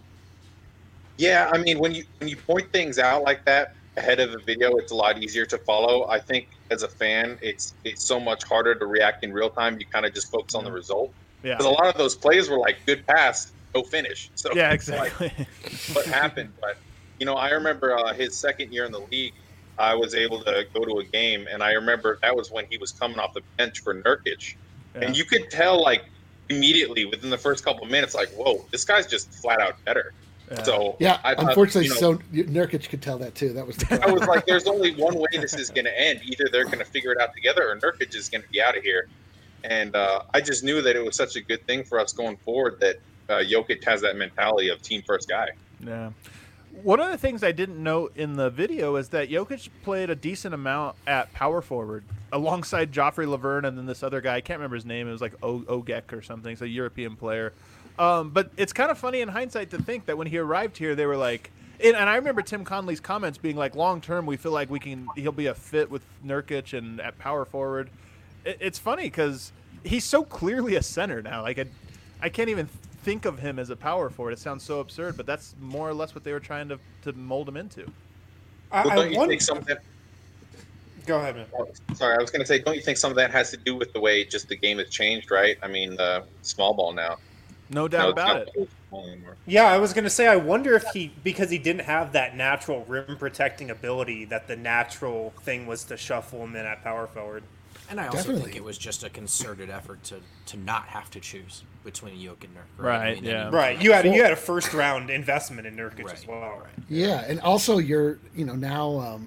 [SPEAKER 6] Yeah, I mean, when you point things out like that ahead of a video, it's a lot easier to follow. I think as a fan, it's so much harder to react in real time. You kind of just focus on the result.
[SPEAKER 3] Yeah.
[SPEAKER 6] Because a lot of those plays were like good pass, no finish. So
[SPEAKER 3] Yeah,
[SPEAKER 6] it's like,
[SPEAKER 3] exactly.
[SPEAKER 6] what happened? But I remember his second year in the league. I was able to go to a game, and I remember that was when he was coming off the bench for Nurkic, and you could tell like immediately within the first couple of minutes, like, whoa, this guy's just flat out better.
[SPEAKER 3] Yeah.
[SPEAKER 6] So
[SPEAKER 4] Yeah,
[SPEAKER 6] I thought,
[SPEAKER 4] unfortunately, so Nurkic could tell that too. That was the
[SPEAKER 6] I was like, there's only one way this is going to end. Either they're going to figure it out together, or Nurkic is going to be out of here. And I just knew that it was such a good thing for us going forward that Jokic has that mentality of team first guy.
[SPEAKER 3] Yeah. One of the things I didn't note in the video is that Jokic played a decent amount at power forward alongside Joffrey Laverne and then this other guy. I can't remember his name. It was like Ogek or something. It's a European player. But it's kind of funny in hindsight to think that when he arrived here, they were like, and I remember Tim Conley's comments being like, long term, we feel like he'll be a fit with Nurkic and at power forward. It's funny because he's so clearly a center now. Like I can't even think of him as a power forward. It sounds so absurd, but that's more or less what they were trying to mold him into.
[SPEAKER 6] Well,
[SPEAKER 1] I
[SPEAKER 6] don't you
[SPEAKER 1] wonder.
[SPEAKER 6] think some of that?
[SPEAKER 1] Go ahead, man.
[SPEAKER 6] Sorry, I was going to say, don't you think some of that has to do with the way just the game has changed, right? I mean, small ball now.
[SPEAKER 3] No doubt
[SPEAKER 6] it's
[SPEAKER 3] about
[SPEAKER 6] not
[SPEAKER 3] it.
[SPEAKER 6] small anymore.
[SPEAKER 1] Yeah, I was gonna say. I wonder if because he didn't have that natural rim protecting ability, that the natural thing was to shuffle him in at power forward.
[SPEAKER 5] And I also
[SPEAKER 4] Definitely.
[SPEAKER 5] think it was just a concerted effort to not have to choose between Jokic and Nurkic.
[SPEAKER 3] Right, yeah.
[SPEAKER 1] Right. You had a first round investment in Nurkic as well.
[SPEAKER 5] Right.
[SPEAKER 4] Yeah, and also you're now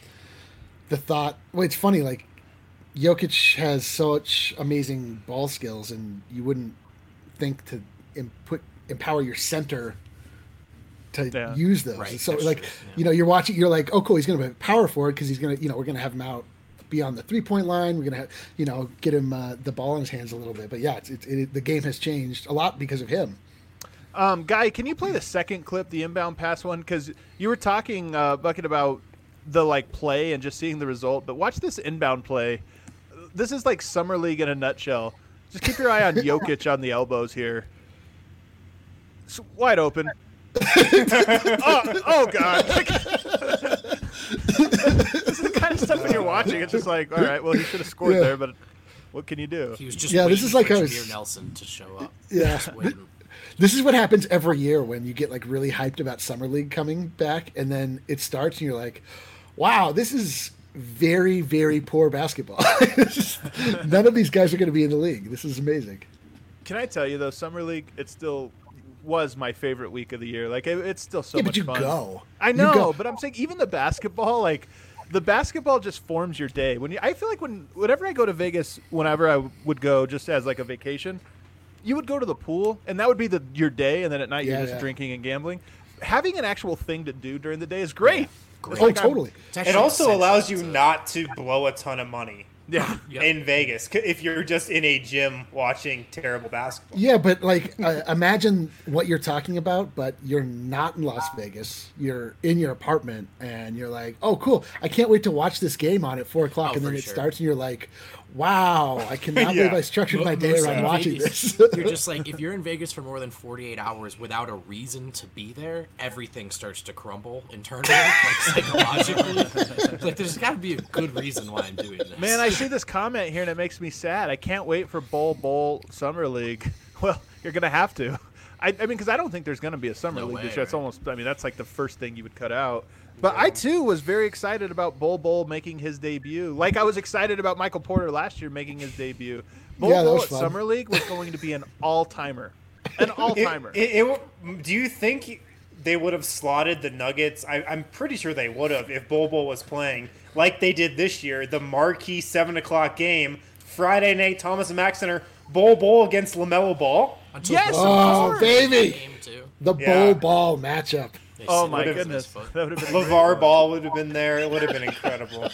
[SPEAKER 4] the thought. Well, it's funny. Like Jokic has such amazing ball skills, and you wouldn't think to empower your center to use those.
[SPEAKER 5] Right,
[SPEAKER 4] So
[SPEAKER 5] that's
[SPEAKER 4] like,
[SPEAKER 5] true, yeah.
[SPEAKER 4] you're watching, you're like, oh, cool, he's going to be power forward because he's going to, we're going to have him out beyond the 3-point line. We're going to have, get him the ball in his hands a little bit. But yeah, the game has changed a lot because of him.
[SPEAKER 3] Guy, can you play the second clip, the inbound pass one? Because you were talking, Bucket, about the play and just seeing the result. But watch this inbound play. This is like Summer League in a nutshell. Just keep your eye on Jokic on the elbows here. It's wide open. oh God. This is the kind of stuff when you're watching. It's just like, all right, well, he should have scored there, but what can you do?
[SPEAKER 5] He was just
[SPEAKER 4] this is like
[SPEAKER 5] for Jameer Nelson to show up.
[SPEAKER 4] Yeah.
[SPEAKER 5] Just waiting.
[SPEAKER 4] This is what happens every year when you get really hyped about Summer League coming back, and then it starts, and you're like, "Wow, this is very, very poor basketball. None of these guys are going to be in the league. This is amazing."
[SPEAKER 3] Can I tell you though, Summer League, it still was my favorite week of the year. It's still so much
[SPEAKER 4] but you
[SPEAKER 3] fun.
[SPEAKER 4] go.
[SPEAKER 3] I know, but I'm saying even the basketball, the basketball just forms your day. I feel like whenever I go to Vegas, whenever I would go just as a vacation. You would go to the pool, and that would be your day, and then at night you're just drinking and gambling. Having an actual thing to do during the day is great.
[SPEAKER 5] Great.
[SPEAKER 4] Oh, totally.
[SPEAKER 1] It also allows you not to blow a ton of money
[SPEAKER 5] Yep.
[SPEAKER 1] in Vegas if you're just in a gym watching terrible basketball.
[SPEAKER 4] Yeah, but imagine what you're talking about, but you're not in Las Vegas. You're in your apartment, and you're like, "Oh, cool! I can't wait to watch this game on at 4:00," and then it starts, and you're like, "Wow! I cannot believe I structured my day around watching this."
[SPEAKER 5] You're just like, if you're in Vegas for more than 48 hours without a reason to be there, everything starts to crumble internally, psychologically. There's got to be a good reason why I'm doing this.
[SPEAKER 3] Man, I see this comment here, and it makes me sad. I can't wait for Bowl Summer League. Well, you're going to have to. I mean, because I don't think there's going to be a Summer League this year. It's almost, that's like the first thing you would cut out. But I, too, was very excited about Bol making his debut. Like I was excited about Michael Porter last year making his debut. Bol at
[SPEAKER 4] fun.
[SPEAKER 3] Summer League was going to be an all-timer. An all-timer.
[SPEAKER 1] Do you think they would have slotted the Nuggets? I'm pretty sure they would have if Bol was playing like they did this year. The marquee 7 o'clock game, Friday night, Thomas and Mack Center, Bol against LaMelo Ball.
[SPEAKER 3] Yes,
[SPEAKER 4] oh, baby. The
[SPEAKER 1] Yeah.
[SPEAKER 4] Bol matchup.
[SPEAKER 3] Oh, my goodness. That would have been
[SPEAKER 1] LeVar Ball would have been there. It would have been incredible.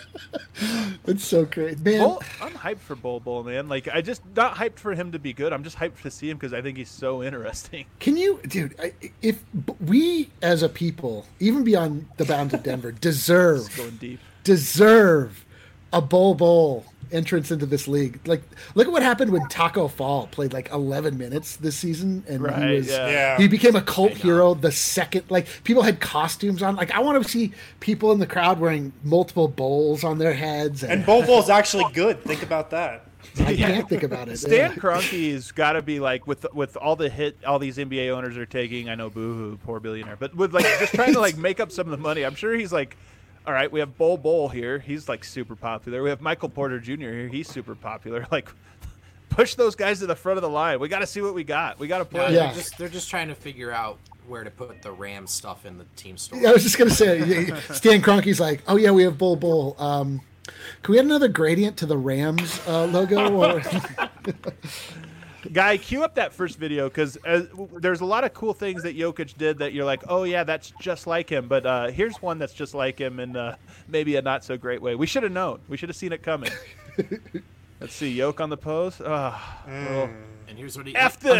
[SPEAKER 4] It's so great, man.
[SPEAKER 3] I'm hyped for Bol, man. I just not hyped for him to be good. I'm just hyped to see him because I think he's so interesting.
[SPEAKER 4] Can you, dude? If we as a people, even beyond the bounds of Denver, deserve a Bol entrance into this league. Look at what happened when Taco Fall played 11 minutes this season, and he became a cult hero the second. People had costumes on. I want to see people in the crowd wearing multiple bowls on their heads.
[SPEAKER 1] And Bol actually good. Think about that.
[SPEAKER 4] I can't think about it.
[SPEAKER 3] Stan Kroenke's got to be with all the hit all these NBA owners are taking. I know, boohoo, poor billionaire, but with just trying to make up some of the money. I'm sure he's all right, we have Bol here. He's super popular. We have Michael Porter Jr. here. He's super popular. Push those guys to the front of the line. We got to see what we got. We got to play.
[SPEAKER 4] Yeah.
[SPEAKER 5] They're just trying to figure out where to put the Rams stuff in the team store.
[SPEAKER 4] I was just gonna say, Stan Kroenke's like, "Oh yeah, we have Bol. Can we add another gradient to the Rams logo?" Or
[SPEAKER 3] Guy, cue up that first video because there's a lot of cool things that Jokic did that you're like, oh, yeah, that's just like him. But here's one that's just like him in maybe a not so great way. We should have known. We should have seen it coming. Let's see. Yoke on the pose.
[SPEAKER 5] And here's what he...
[SPEAKER 3] F this!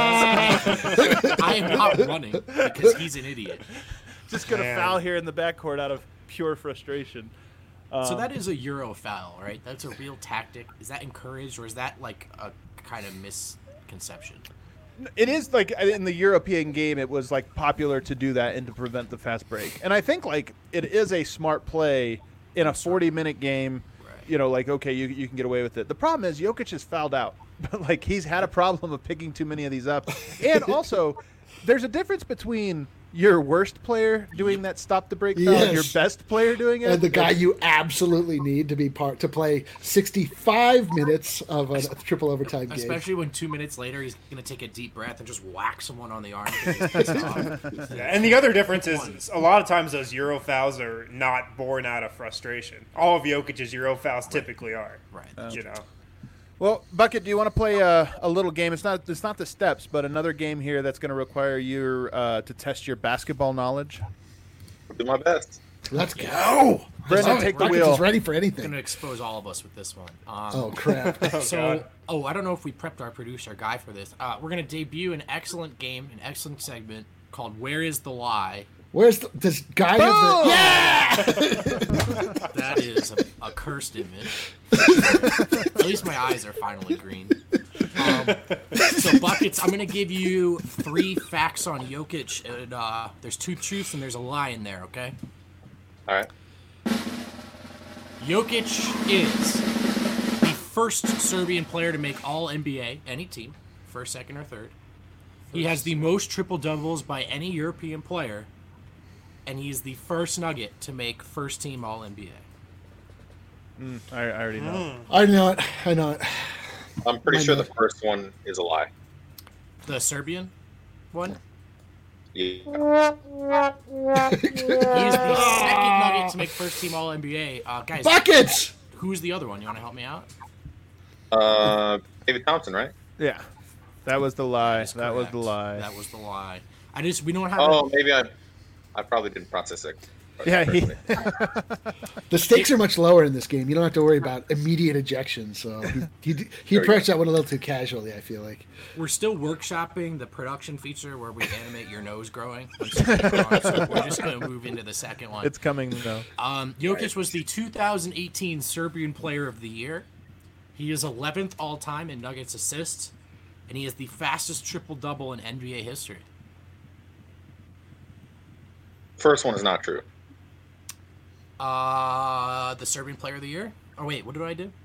[SPEAKER 5] I am not running because he's an idiot.
[SPEAKER 3] Just going to foul here in the backcourt out of pure frustration.
[SPEAKER 5] So that is a Euro foul, right? That's a real tactic. Is that encouraged, or is that a kind of misconception?
[SPEAKER 3] It is in the European game, it was popular to do that and to prevent the fast break. And I think it is a smart play in a 40-minute game. Right. Okay, you can get away with it. The problem is Jokic is fouled out. He's had a problem of picking too many of these up. And also, there's a difference between your worst player doing that stop the break foul and your best player doing it,
[SPEAKER 4] and the guy you absolutely need to play 65 minutes of a triple overtime game.
[SPEAKER 5] Especially when 2 minutes later he's going to take a deep breath and just whack someone on the arm.
[SPEAKER 1] And the other difference is a lot of times those Euro fouls are not born out of frustration. All of Jokic's Euro fouls typically are.
[SPEAKER 5] Right.
[SPEAKER 3] Well, Bucket, do you want to play a little game? It's not the steps, but another game here that's going to require you to test your basketball knowledge.
[SPEAKER 6] I'll do my best.
[SPEAKER 4] Let's go.
[SPEAKER 3] Brendan, take the
[SPEAKER 4] Rockets
[SPEAKER 3] wheel.
[SPEAKER 4] is ready for
[SPEAKER 5] I'm
[SPEAKER 4] anything.
[SPEAKER 5] gonna expose all of us with this one.
[SPEAKER 4] Oh crap!
[SPEAKER 5] So, I don't know if we prepped our producer Guy for this. We're gonna debut an excellent game, an excellent segment called "Where Is the Lie."
[SPEAKER 4] Where's this guy? Have the, yeah.
[SPEAKER 5] That is a cursed image. At least my eyes are finally green. So Buckets, I'm gonna give you 3 facts on Jokic. And, there's 2 truths and there's a lie in there. Okay.
[SPEAKER 6] All right.
[SPEAKER 5] Jokic is the first Serbian player to make all NBA, any team, first, second, or third. He has the most triple doubles by any European player, and he's the first Nugget to make first team all NBA.
[SPEAKER 3] I already know.
[SPEAKER 4] I know it. I know it.
[SPEAKER 6] I'm pretty sure the first one is a lie.
[SPEAKER 5] The Serbian one?
[SPEAKER 6] Yeah.
[SPEAKER 5] He is the second Nugget to make first team all NBA. Guys,
[SPEAKER 4] Buckets.
[SPEAKER 5] who's the other one? You want to help me out?
[SPEAKER 6] David Thompson, right?
[SPEAKER 3] Yeah, that was the lie.
[SPEAKER 5] That's
[SPEAKER 3] That was the
[SPEAKER 5] correct.
[SPEAKER 3] lie.
[SPEAKER 5] That was the lie. We don't have.
[SPEAKER 6] Oh, maybe I probably didn't process it.
[SPEAKER 3] Yeah,
[SPEAKER 4] The stakes are much lower in this game. You don't have to worry about immediate ejection. So he approached that one a little too casually. I feel like.
[SPEAKER 5] We're still workshopping the production feature where we animate your nose growing. So we're just going to move into the second one.
[SPEAKER 3] It's coming though.
[SPEAKER 5] Jokic was the 2018 Serbian Player of the Year. He is 11th all-time in Nuggets assists, and he is the fastest triple-double in NBA history.
[SPEAKER 6] First one is not true.
[SPEAKER 5] The Serbian Player of the Year? Oh, wait, what did I do?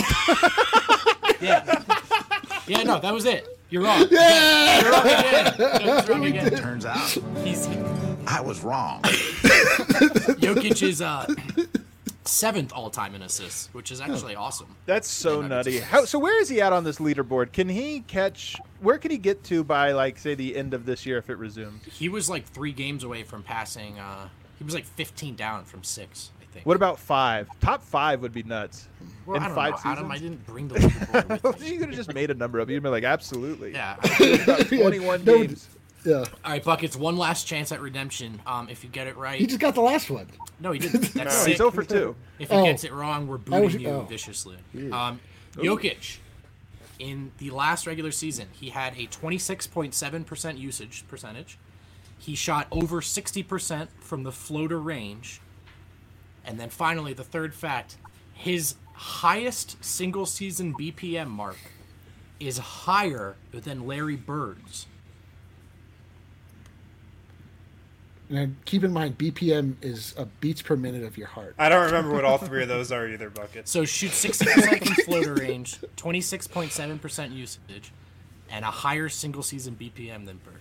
[SPEAKER 5] Yeah. Yeah, no, that was it. You're wrong. Yeah! You're wrong again. You're wrong again.
[SPEAKER 7] Turns out I was wrong.
[SPEAKER 5] Jokic is 7th all-time in assists, which is actually awesome.
[SPEAKER 3] That's so
[SPEAKER 5] Yeah,
[SPEAKER 3] nutty.
[SPEAKER 5] Nuggets
[SPEAKER 3] So where is he at on this leaderboard? Can he catch? Where can he get to by, like, say, the end of this year if it resumes?
[SPEAKER 5] He was like 3 games away from passing. He was like 15 down from 6, I think.
[SPEAKER 3] What about 5? Top 5 would be nuts.
[SPEAKER 5] Well,
[SPEAKER 3] in
[SPEAKER 5] I don't
[SPEAKER 3] 5
[SPEAKER 5] know,
[SPEAKER 3] seasons?
[SPEAKER 5] Adam. I didn't bring the leaderboard with me.
[SPEAKER 3] You could have just made a number up. You'd be like, absolutely.
[SPEAKER 5] Yeah.
[SPEAKER 3] About 21
[SPEAKER 4] No,
[SPEAKER 3] games.
[SPEAKER 4] Yeah.
[SPEAKER 5] All right, Buckets. One last chance at redemption. If you get it right.
[SPEAKER 4] He just got the last one.
[SPEAKER 5] No, he didn't. That's
[SPEAKER 3] No,
[SPEAKER 5] sick.
[SPEAKER 3] he's 0 for 2.
[SPEAKER 5] If he
[SPEAKER 4] Oh.
[SPEAKER 5] gets it wrong, we're
[SPEAKER 4] I was-
[SPEAKER 5] booting you
[SPEAKER 4] oh.
[SPEAKER 5] viciously. Jokic, in the last regular season, he had a 26.7% usage percentage. He shot over 60% from the floater range. And then finally, the third fact, his highest single season BPM mark is higher than Larry Bird's.
[SPEAKER 4] And keep in mind, BPM is beats per minute of your heart.
[SPEAKER 1] I don't remember what all 3 of those are either, Buckets.
[SPEAKER 5] So shoot 60% from floater range, 26.7% usage, and a higher single season BPM than Bird.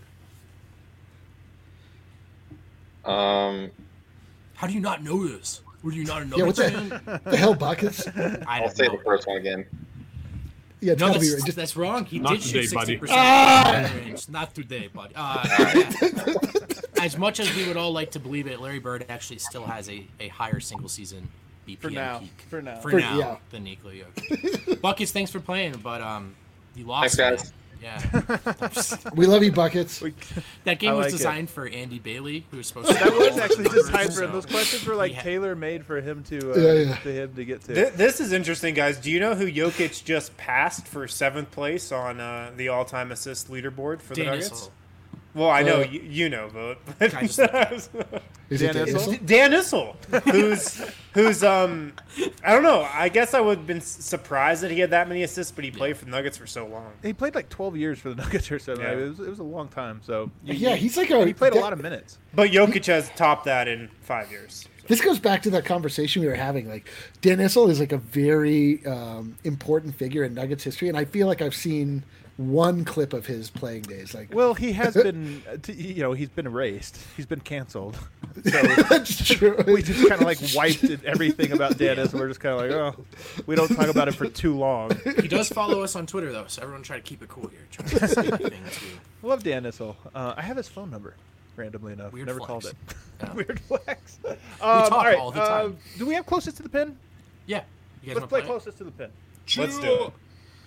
[SPEAKER 5] How do you not know this? Were you not a
[SPEAKER 4] Yeah,
[SPEAKER 5] Nuggets
[SPEAKER 4] what
[SPEAKER 5] fan?
[SPEAKER 4] the hell, Buckets?
[SPEAKER 5] I
[SPEAKER 6] I'll
[SPEAKER 5] don't
[SPEAKER 6] say
[SPEAKER 5] know.
[SPEAKER 6] the first one again.
[SPEAKER 4] Yeah, it's
[SPEAKER 5] No,
[SPEAKER 4] gotta be
[SPEAKER 5] that's,
[SPEAKER 4] just
[SPEAKER 5] that's wrong. He
[SPEAKER 8] Not
[SPEAKER 5] did shoot
[SPEAKER 8] today, buddy.
[SPEAKER 5] 60% from range. Not today, buddy. Yeah. As much as we would all like to believe it, Larry Bird actually still has a higher single season BPM
[SPEAKER 3] For now.
[SPEAKER 5] peak.
[SPEAKER 3] For now.
[SPEAKER 5] For
[SPEAKER 4] For-
[SPEAKER 5] now
[SPEAKER 4] yeah.
[SPEAKER 5] than Nikola Jokic. Buckets, thanks for playing, but you lost.
[SPEAKER 6] Thanks, guys.
[SPEAKER 5] Man. Yeah.
[SPEAKER 4] we love you, Buckets.
[SPEAKER 5] That game
[SPEAKER 3] I
[SPEAKER 5] was
[SPEAKER 3] like it.
[SPEAKER 5] designed for Andy Bailey, who was supposed to.
[SPEAKER 3] That
[SPEAKER 5] do
[SPEAKER 3] was
[SPEAKER 5] all
[SPEAKER 3] actually
[SPEAKER 5] the numbers,
[SPEAKER 3] designed for him.
[SPEAKER 5] so
[SPEAKER 3] Those questions were like
[SPEAKER 5] he had-
[SPEAKER 3] tailor-made for him to
[SPEAKER 4] Yeah.
[SPEAKER 3] to him to get to.
[SPEAKER 1] This is interesting, guys. Do you know who Jokic just passed for 7th place on the all-time assist leaderboard for the
[SPEAKER 5] Dan
[SPEAKER 1] Nuggets?
[SPEAKER 5] Issel.
[SPEAKER 1] Know,
[SPEAKER 4] Uh,
[SPEAKER 1] you know, but
[SPEAKER 5] I just-
[SPEAKER 4] Is
[SPEAKER 3] Dan
[SPEAKER 4] it
[SPEAKER 3] Issel?
[SPEAKER 4] Issel?
[SPEAKER 1] Dan Issel, who's I don't know. I guess I would have been surprised that he had that many assists, but he played for the Nuggets for so long.
[SPEAKER 3] He played like 12 years for the Nuggets or something.
[SPEAKER 1] Yeah.
[SPEAKER 3] It was a long time. So
[SPEAKER 4] Yeah, he's like a.
[SPEAKER 3] he played a lot of minutes.
[SPEAKER 1] But Jokic has topped that in 5 years.
[SPEAKER 4] This goes back to that conversation we were having. Like, Dan Issel is like a very important figure in Nuggets history, and I feel like I've seen one clip of his playing days. Like,
[SPEAKER 3] Well, he has been, he's been erased. He's been canceled. So
[SPEAKER 4] that's true.
[SPEAKER 3] we just kind of like wiped everything about Dan Issel. We're just kind of like, oh, we don't talk about it for too long.
[SPEAKER 5] He does follow us on Twitter, though, so everyone try to keep it cool here. Try to say anything too.
[SPEAKER 3] I love Dan Issel. I have his phone number, randomly enough.
[SPEAKER 5] Weird
[SPEAKER 3] Never
[SPEAKER 5] flex.
[SPEAKER 3] called it.
[SPEAKER 5] Yeah.
[SPEAKER 3] Weird flex. We
[SPEAKER 5] talk all the time.
[SPEAKER 3] Do we have closest to the pin?
[SPEAKER 5] Yeah. You guys
[SPEAKER 3] Let's
[SPEAKER 5] want
[SPEAKER 3] play
[SPEAKER 5] to
[SPEAKER 3] closest to the pin.
[SPEAKER 1] Let's do it.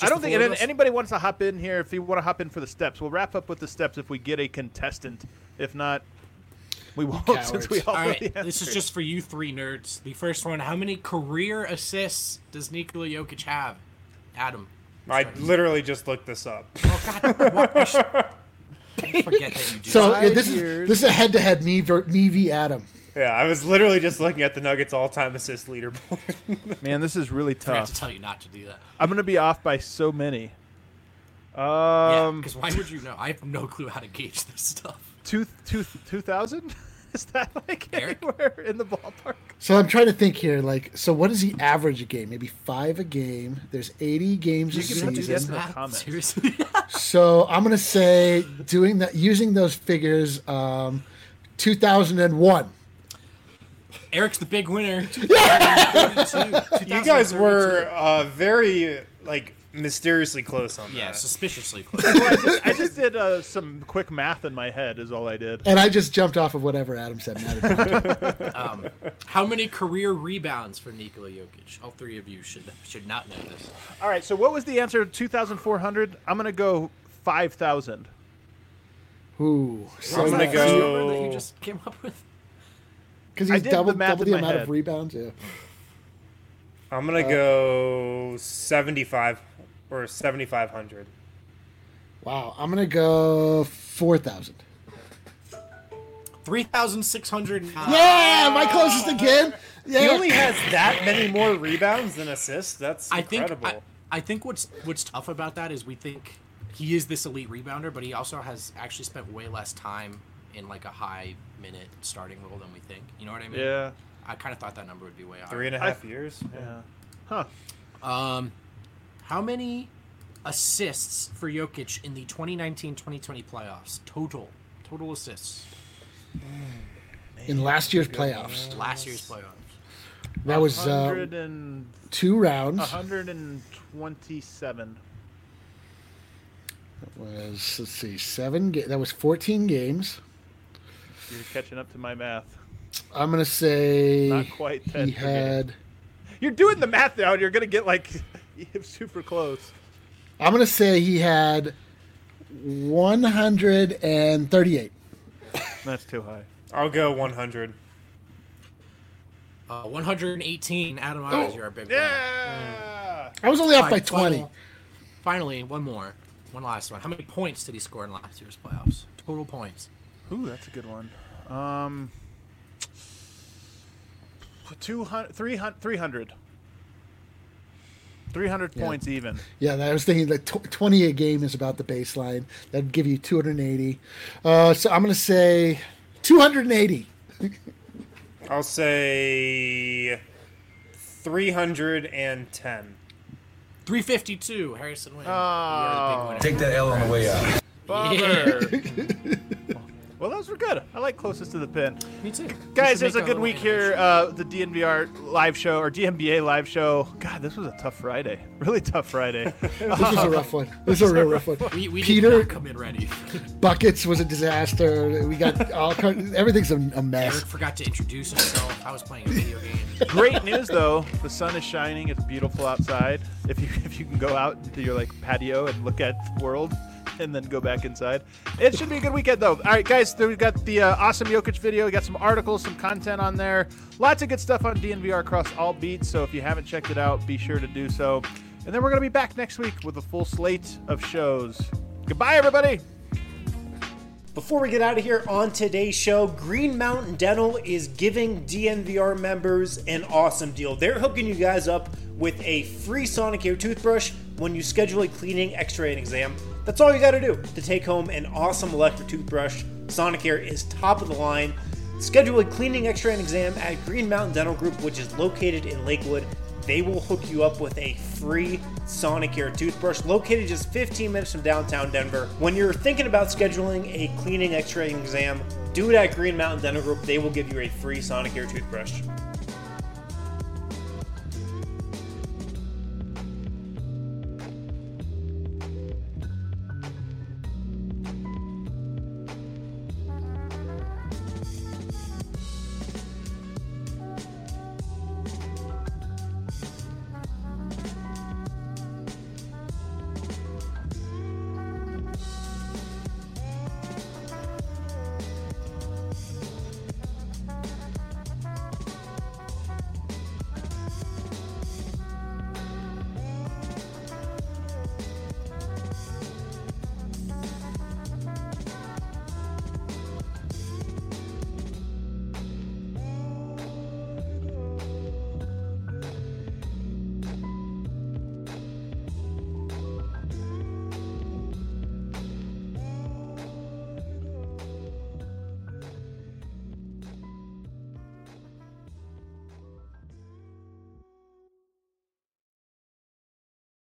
[SPEAKER 3] I don't
[SPEAKER 5] the
[SPEAKER 3] think
[SPEAKER 5] four of us?
[SPEAKER 3] anybody wants to hop in here. If you want to hop in for the steps, we'll wrap up with the steps if we get a contestant. If not, we won't since we all
[SPEAKER 5] All
[SPEAKER 3] know
[SPEAKER 5] right,
[SPEAKER 3] the
[SPEAKER 5] this is
[SPEAKER 3] answers.
[SPEAKER 5] just for you three nerds. The first one: how many career assists does Nikola Jokic have? Adam.
[SPEAKER 1] I literally just looked this up.
[SPEAKER 5] Oh God! What? Don't forget that you do.
[SPEAKER 4] So
[SPEAKER 3] Five
[SPEAKER 4] this
[SPEAKER 3] years.
[SPEAKER 4] is a head-to-head me v Adam.
[SPEAKER 1] Yeah, I was literally just looking at the Nuggets all-time assist leaderboard.
[SPEAKER 3] Man, this is really
[SPEAKER 5] I forgot to
[SPEAKER 3] tough.
[SPEAKER 5] tell you not to do that.
[SPEAKER 3] I'm gonna be off by so many.
[SPEAKER 5] Yeah, because why would you know? I have no clue how to gauge this stuff.
[SPEAKER 3] 2000? Is that like
[SPEAKER 5] Eric?
[SPEAKER 3] anywhere in the ballpark?
[SPEAKER 4] So I'm trying to think here. Like, so what is the average a game? Maybe 5 a game. There's 80 games a
[SPEAKER 3] You can do this
[SPEAKER 4] season.
[SPEAKER 3] in the comments.
[SPEAKER 5] Seriously?
[SPEAKER 4] So I'm gonna say using those figures, 2001.
[SPEAKER 5] Eric's the big winner.
[SPEAKER 1] You guys were very mysteriously close on that.
[SPEAKER 5] Yeah, suspiciously close.
[SPEAKER 3] I just did some quick math in my head. Is all I did.
[SPEAKER 4] And I just jumped off of whatever Adam said.
[SPEAKER 5] How many career rebounds for Nikola Jokic? All three of you should not know this.
[SPEAKER 3] All right. So what was the answer? 2,400. I'm gonna go 5,000.
[SPEAKER 4] Ooh, so
[SPEAKER 1] I'm gonna
[SPEAKER 5] What's that
[SPEAKER 1] go-
[SPEAKER 5] number that you just came up with?
[SPEAKER 4] because
[SPEAKER 3] I
[SPEAKER 4] he's
[SPEAKER 3] did the
[SPEAKER 4] double
[SPEAKER 3] math in
[SPEAKER 4] the
[SPEAKER 3] my
[SPEAKER 4] amount
[SPEAKER 3] head.
[SPEAKER 4] of rebounds. Yeah.
[SPEAKER 1] I'm gonna go 75 or 7,500.
[SPEAKER 4] Wow, I'm gonna go 4,000.
[SPEAKER 5] 3,600.
[SPEAKER 4] Yeah, am I closest again? Yeah.
[SPEAKER 1] He only has that many more rebounds than assists. That's incredible.
[SPEAKER 5] I think what's tough about that is we think he is this elite rebounder, but he also has actually spent way less time in like a high minute starting role than we think. You know what I mean?
[SPEAKER 3] Yeah.
[SPEAKER 5] I kind of thought that number would be way higher.
[SPEAKER 1] 3.5 years.
[SPEAKER 3] Yeah. Huh.
[SPEAKER 5] How many assists for Jokic in the 2019-2020 playoffs? Total assists.
[SPEAKER 4] In last year's playoffs,
[SPEAKER 5] Last year's playoffs.
[SPEAKER 4] that was 2 rounds.
[SPEAKER 3] 127.
[SPEAKER 4] That was, let's see, 7. That was 14 games.
[SPEAKER 3] You're catching up to my math.
[SPEAKER 4] I'm gonna say
[SPEAKER 3] Not quite 10
[SPEAKER 4] he
[SPEAKER 3] per game.
[SPEAKER 4] had.
[SPEAKER 3] You're doing the math now, and you're gonna get super close.
[SPEAKER 4] I'm gonna say he had 138.
[SPEAKER 3] That's too high.
[SPEAKER 1] I'll go 100.
[SPEAKER 5] 118. Adam Myers, you're our big winner.
[SPEAKER 3] Yeah.
[SPEAKER 4] I was only off by
[SPEAKER 5] Fine,
[SPEAKER 4] 20.
[SPEAKER 5] Finally, one more. One last one. How many points did he score in last year's playoffs? Total points.
[SPEAKER 3] Ooh, that's a good one. 200, 300. 300 points even.
[SPEAKER 4] Yeah, I was thinking like 20 a game is about the baseline. That'd give you 280. So I'm gonna say 280.
[SPEAKER 1] I'll say 310.
[SPEAKER 5] 352. Harrison wins.
[SPEAKER 3] Oh.
[SPEAKER 5] You're the big winner.
[SPEAKER 7] Take that L on the way out.
[SPEAKER 3] Bummer. Well, those were good. I like closest to the pin.
[SPEAKER 5] Me too.
[SPEAKER 3] Guys, it was a good week here. The DNVR live show, or DNBA live show. God, this was a tough Friday. Really tough Friday.
[SPEAKER 4] This was a rough one. This was a real rough one.
[SPEAKER 5] We did
[SPEAKER 4] Peter
[SPEAKER 5] not come in ready.
[SPEAKER 4] Buckets was a disaster. We got all everything's a mess.
[SPEAKER 5] Eric forgot to introduce himself. I was playing a video game.
[SPEAKER 3] Great news, though. The sun is shining. It's beautiful outside. If you can go out into your patio and look at the world, and then go back inside. It should be a good weekend, though. All right, guys, we've got the awesome Jokic video. We got some articles, some content on there. Lots of good stuff on DNVR across all beats, so if you haven't checked it out, be sure to do so. And then we're going to be back next week with a full slate of shows. Goodbye, everybody.
[SPEAKER 1] Before we get out of here on today's show, Green Mountain Dental is giving DNVR members an awesome deal. They're hooking you guys up with a free Sonicare toothbrush when you schedule a cleaning, x-ray, and exam. That's all you got to do to take home an awesome electric toothbrush. Sonicare is top of the line. Schedule a cleaning, x-ray, and exam at Green Mountain Dental Group, which is located in Lakewood. They will hook you up with a free Sonicare toothbrush located just 15 minutes from downtown Denver. When you're thinking about scheduling a cleaning, x-ray, and exam, do it at Green Mountain Dental Group. They will give you a free Sonicare toothbrush.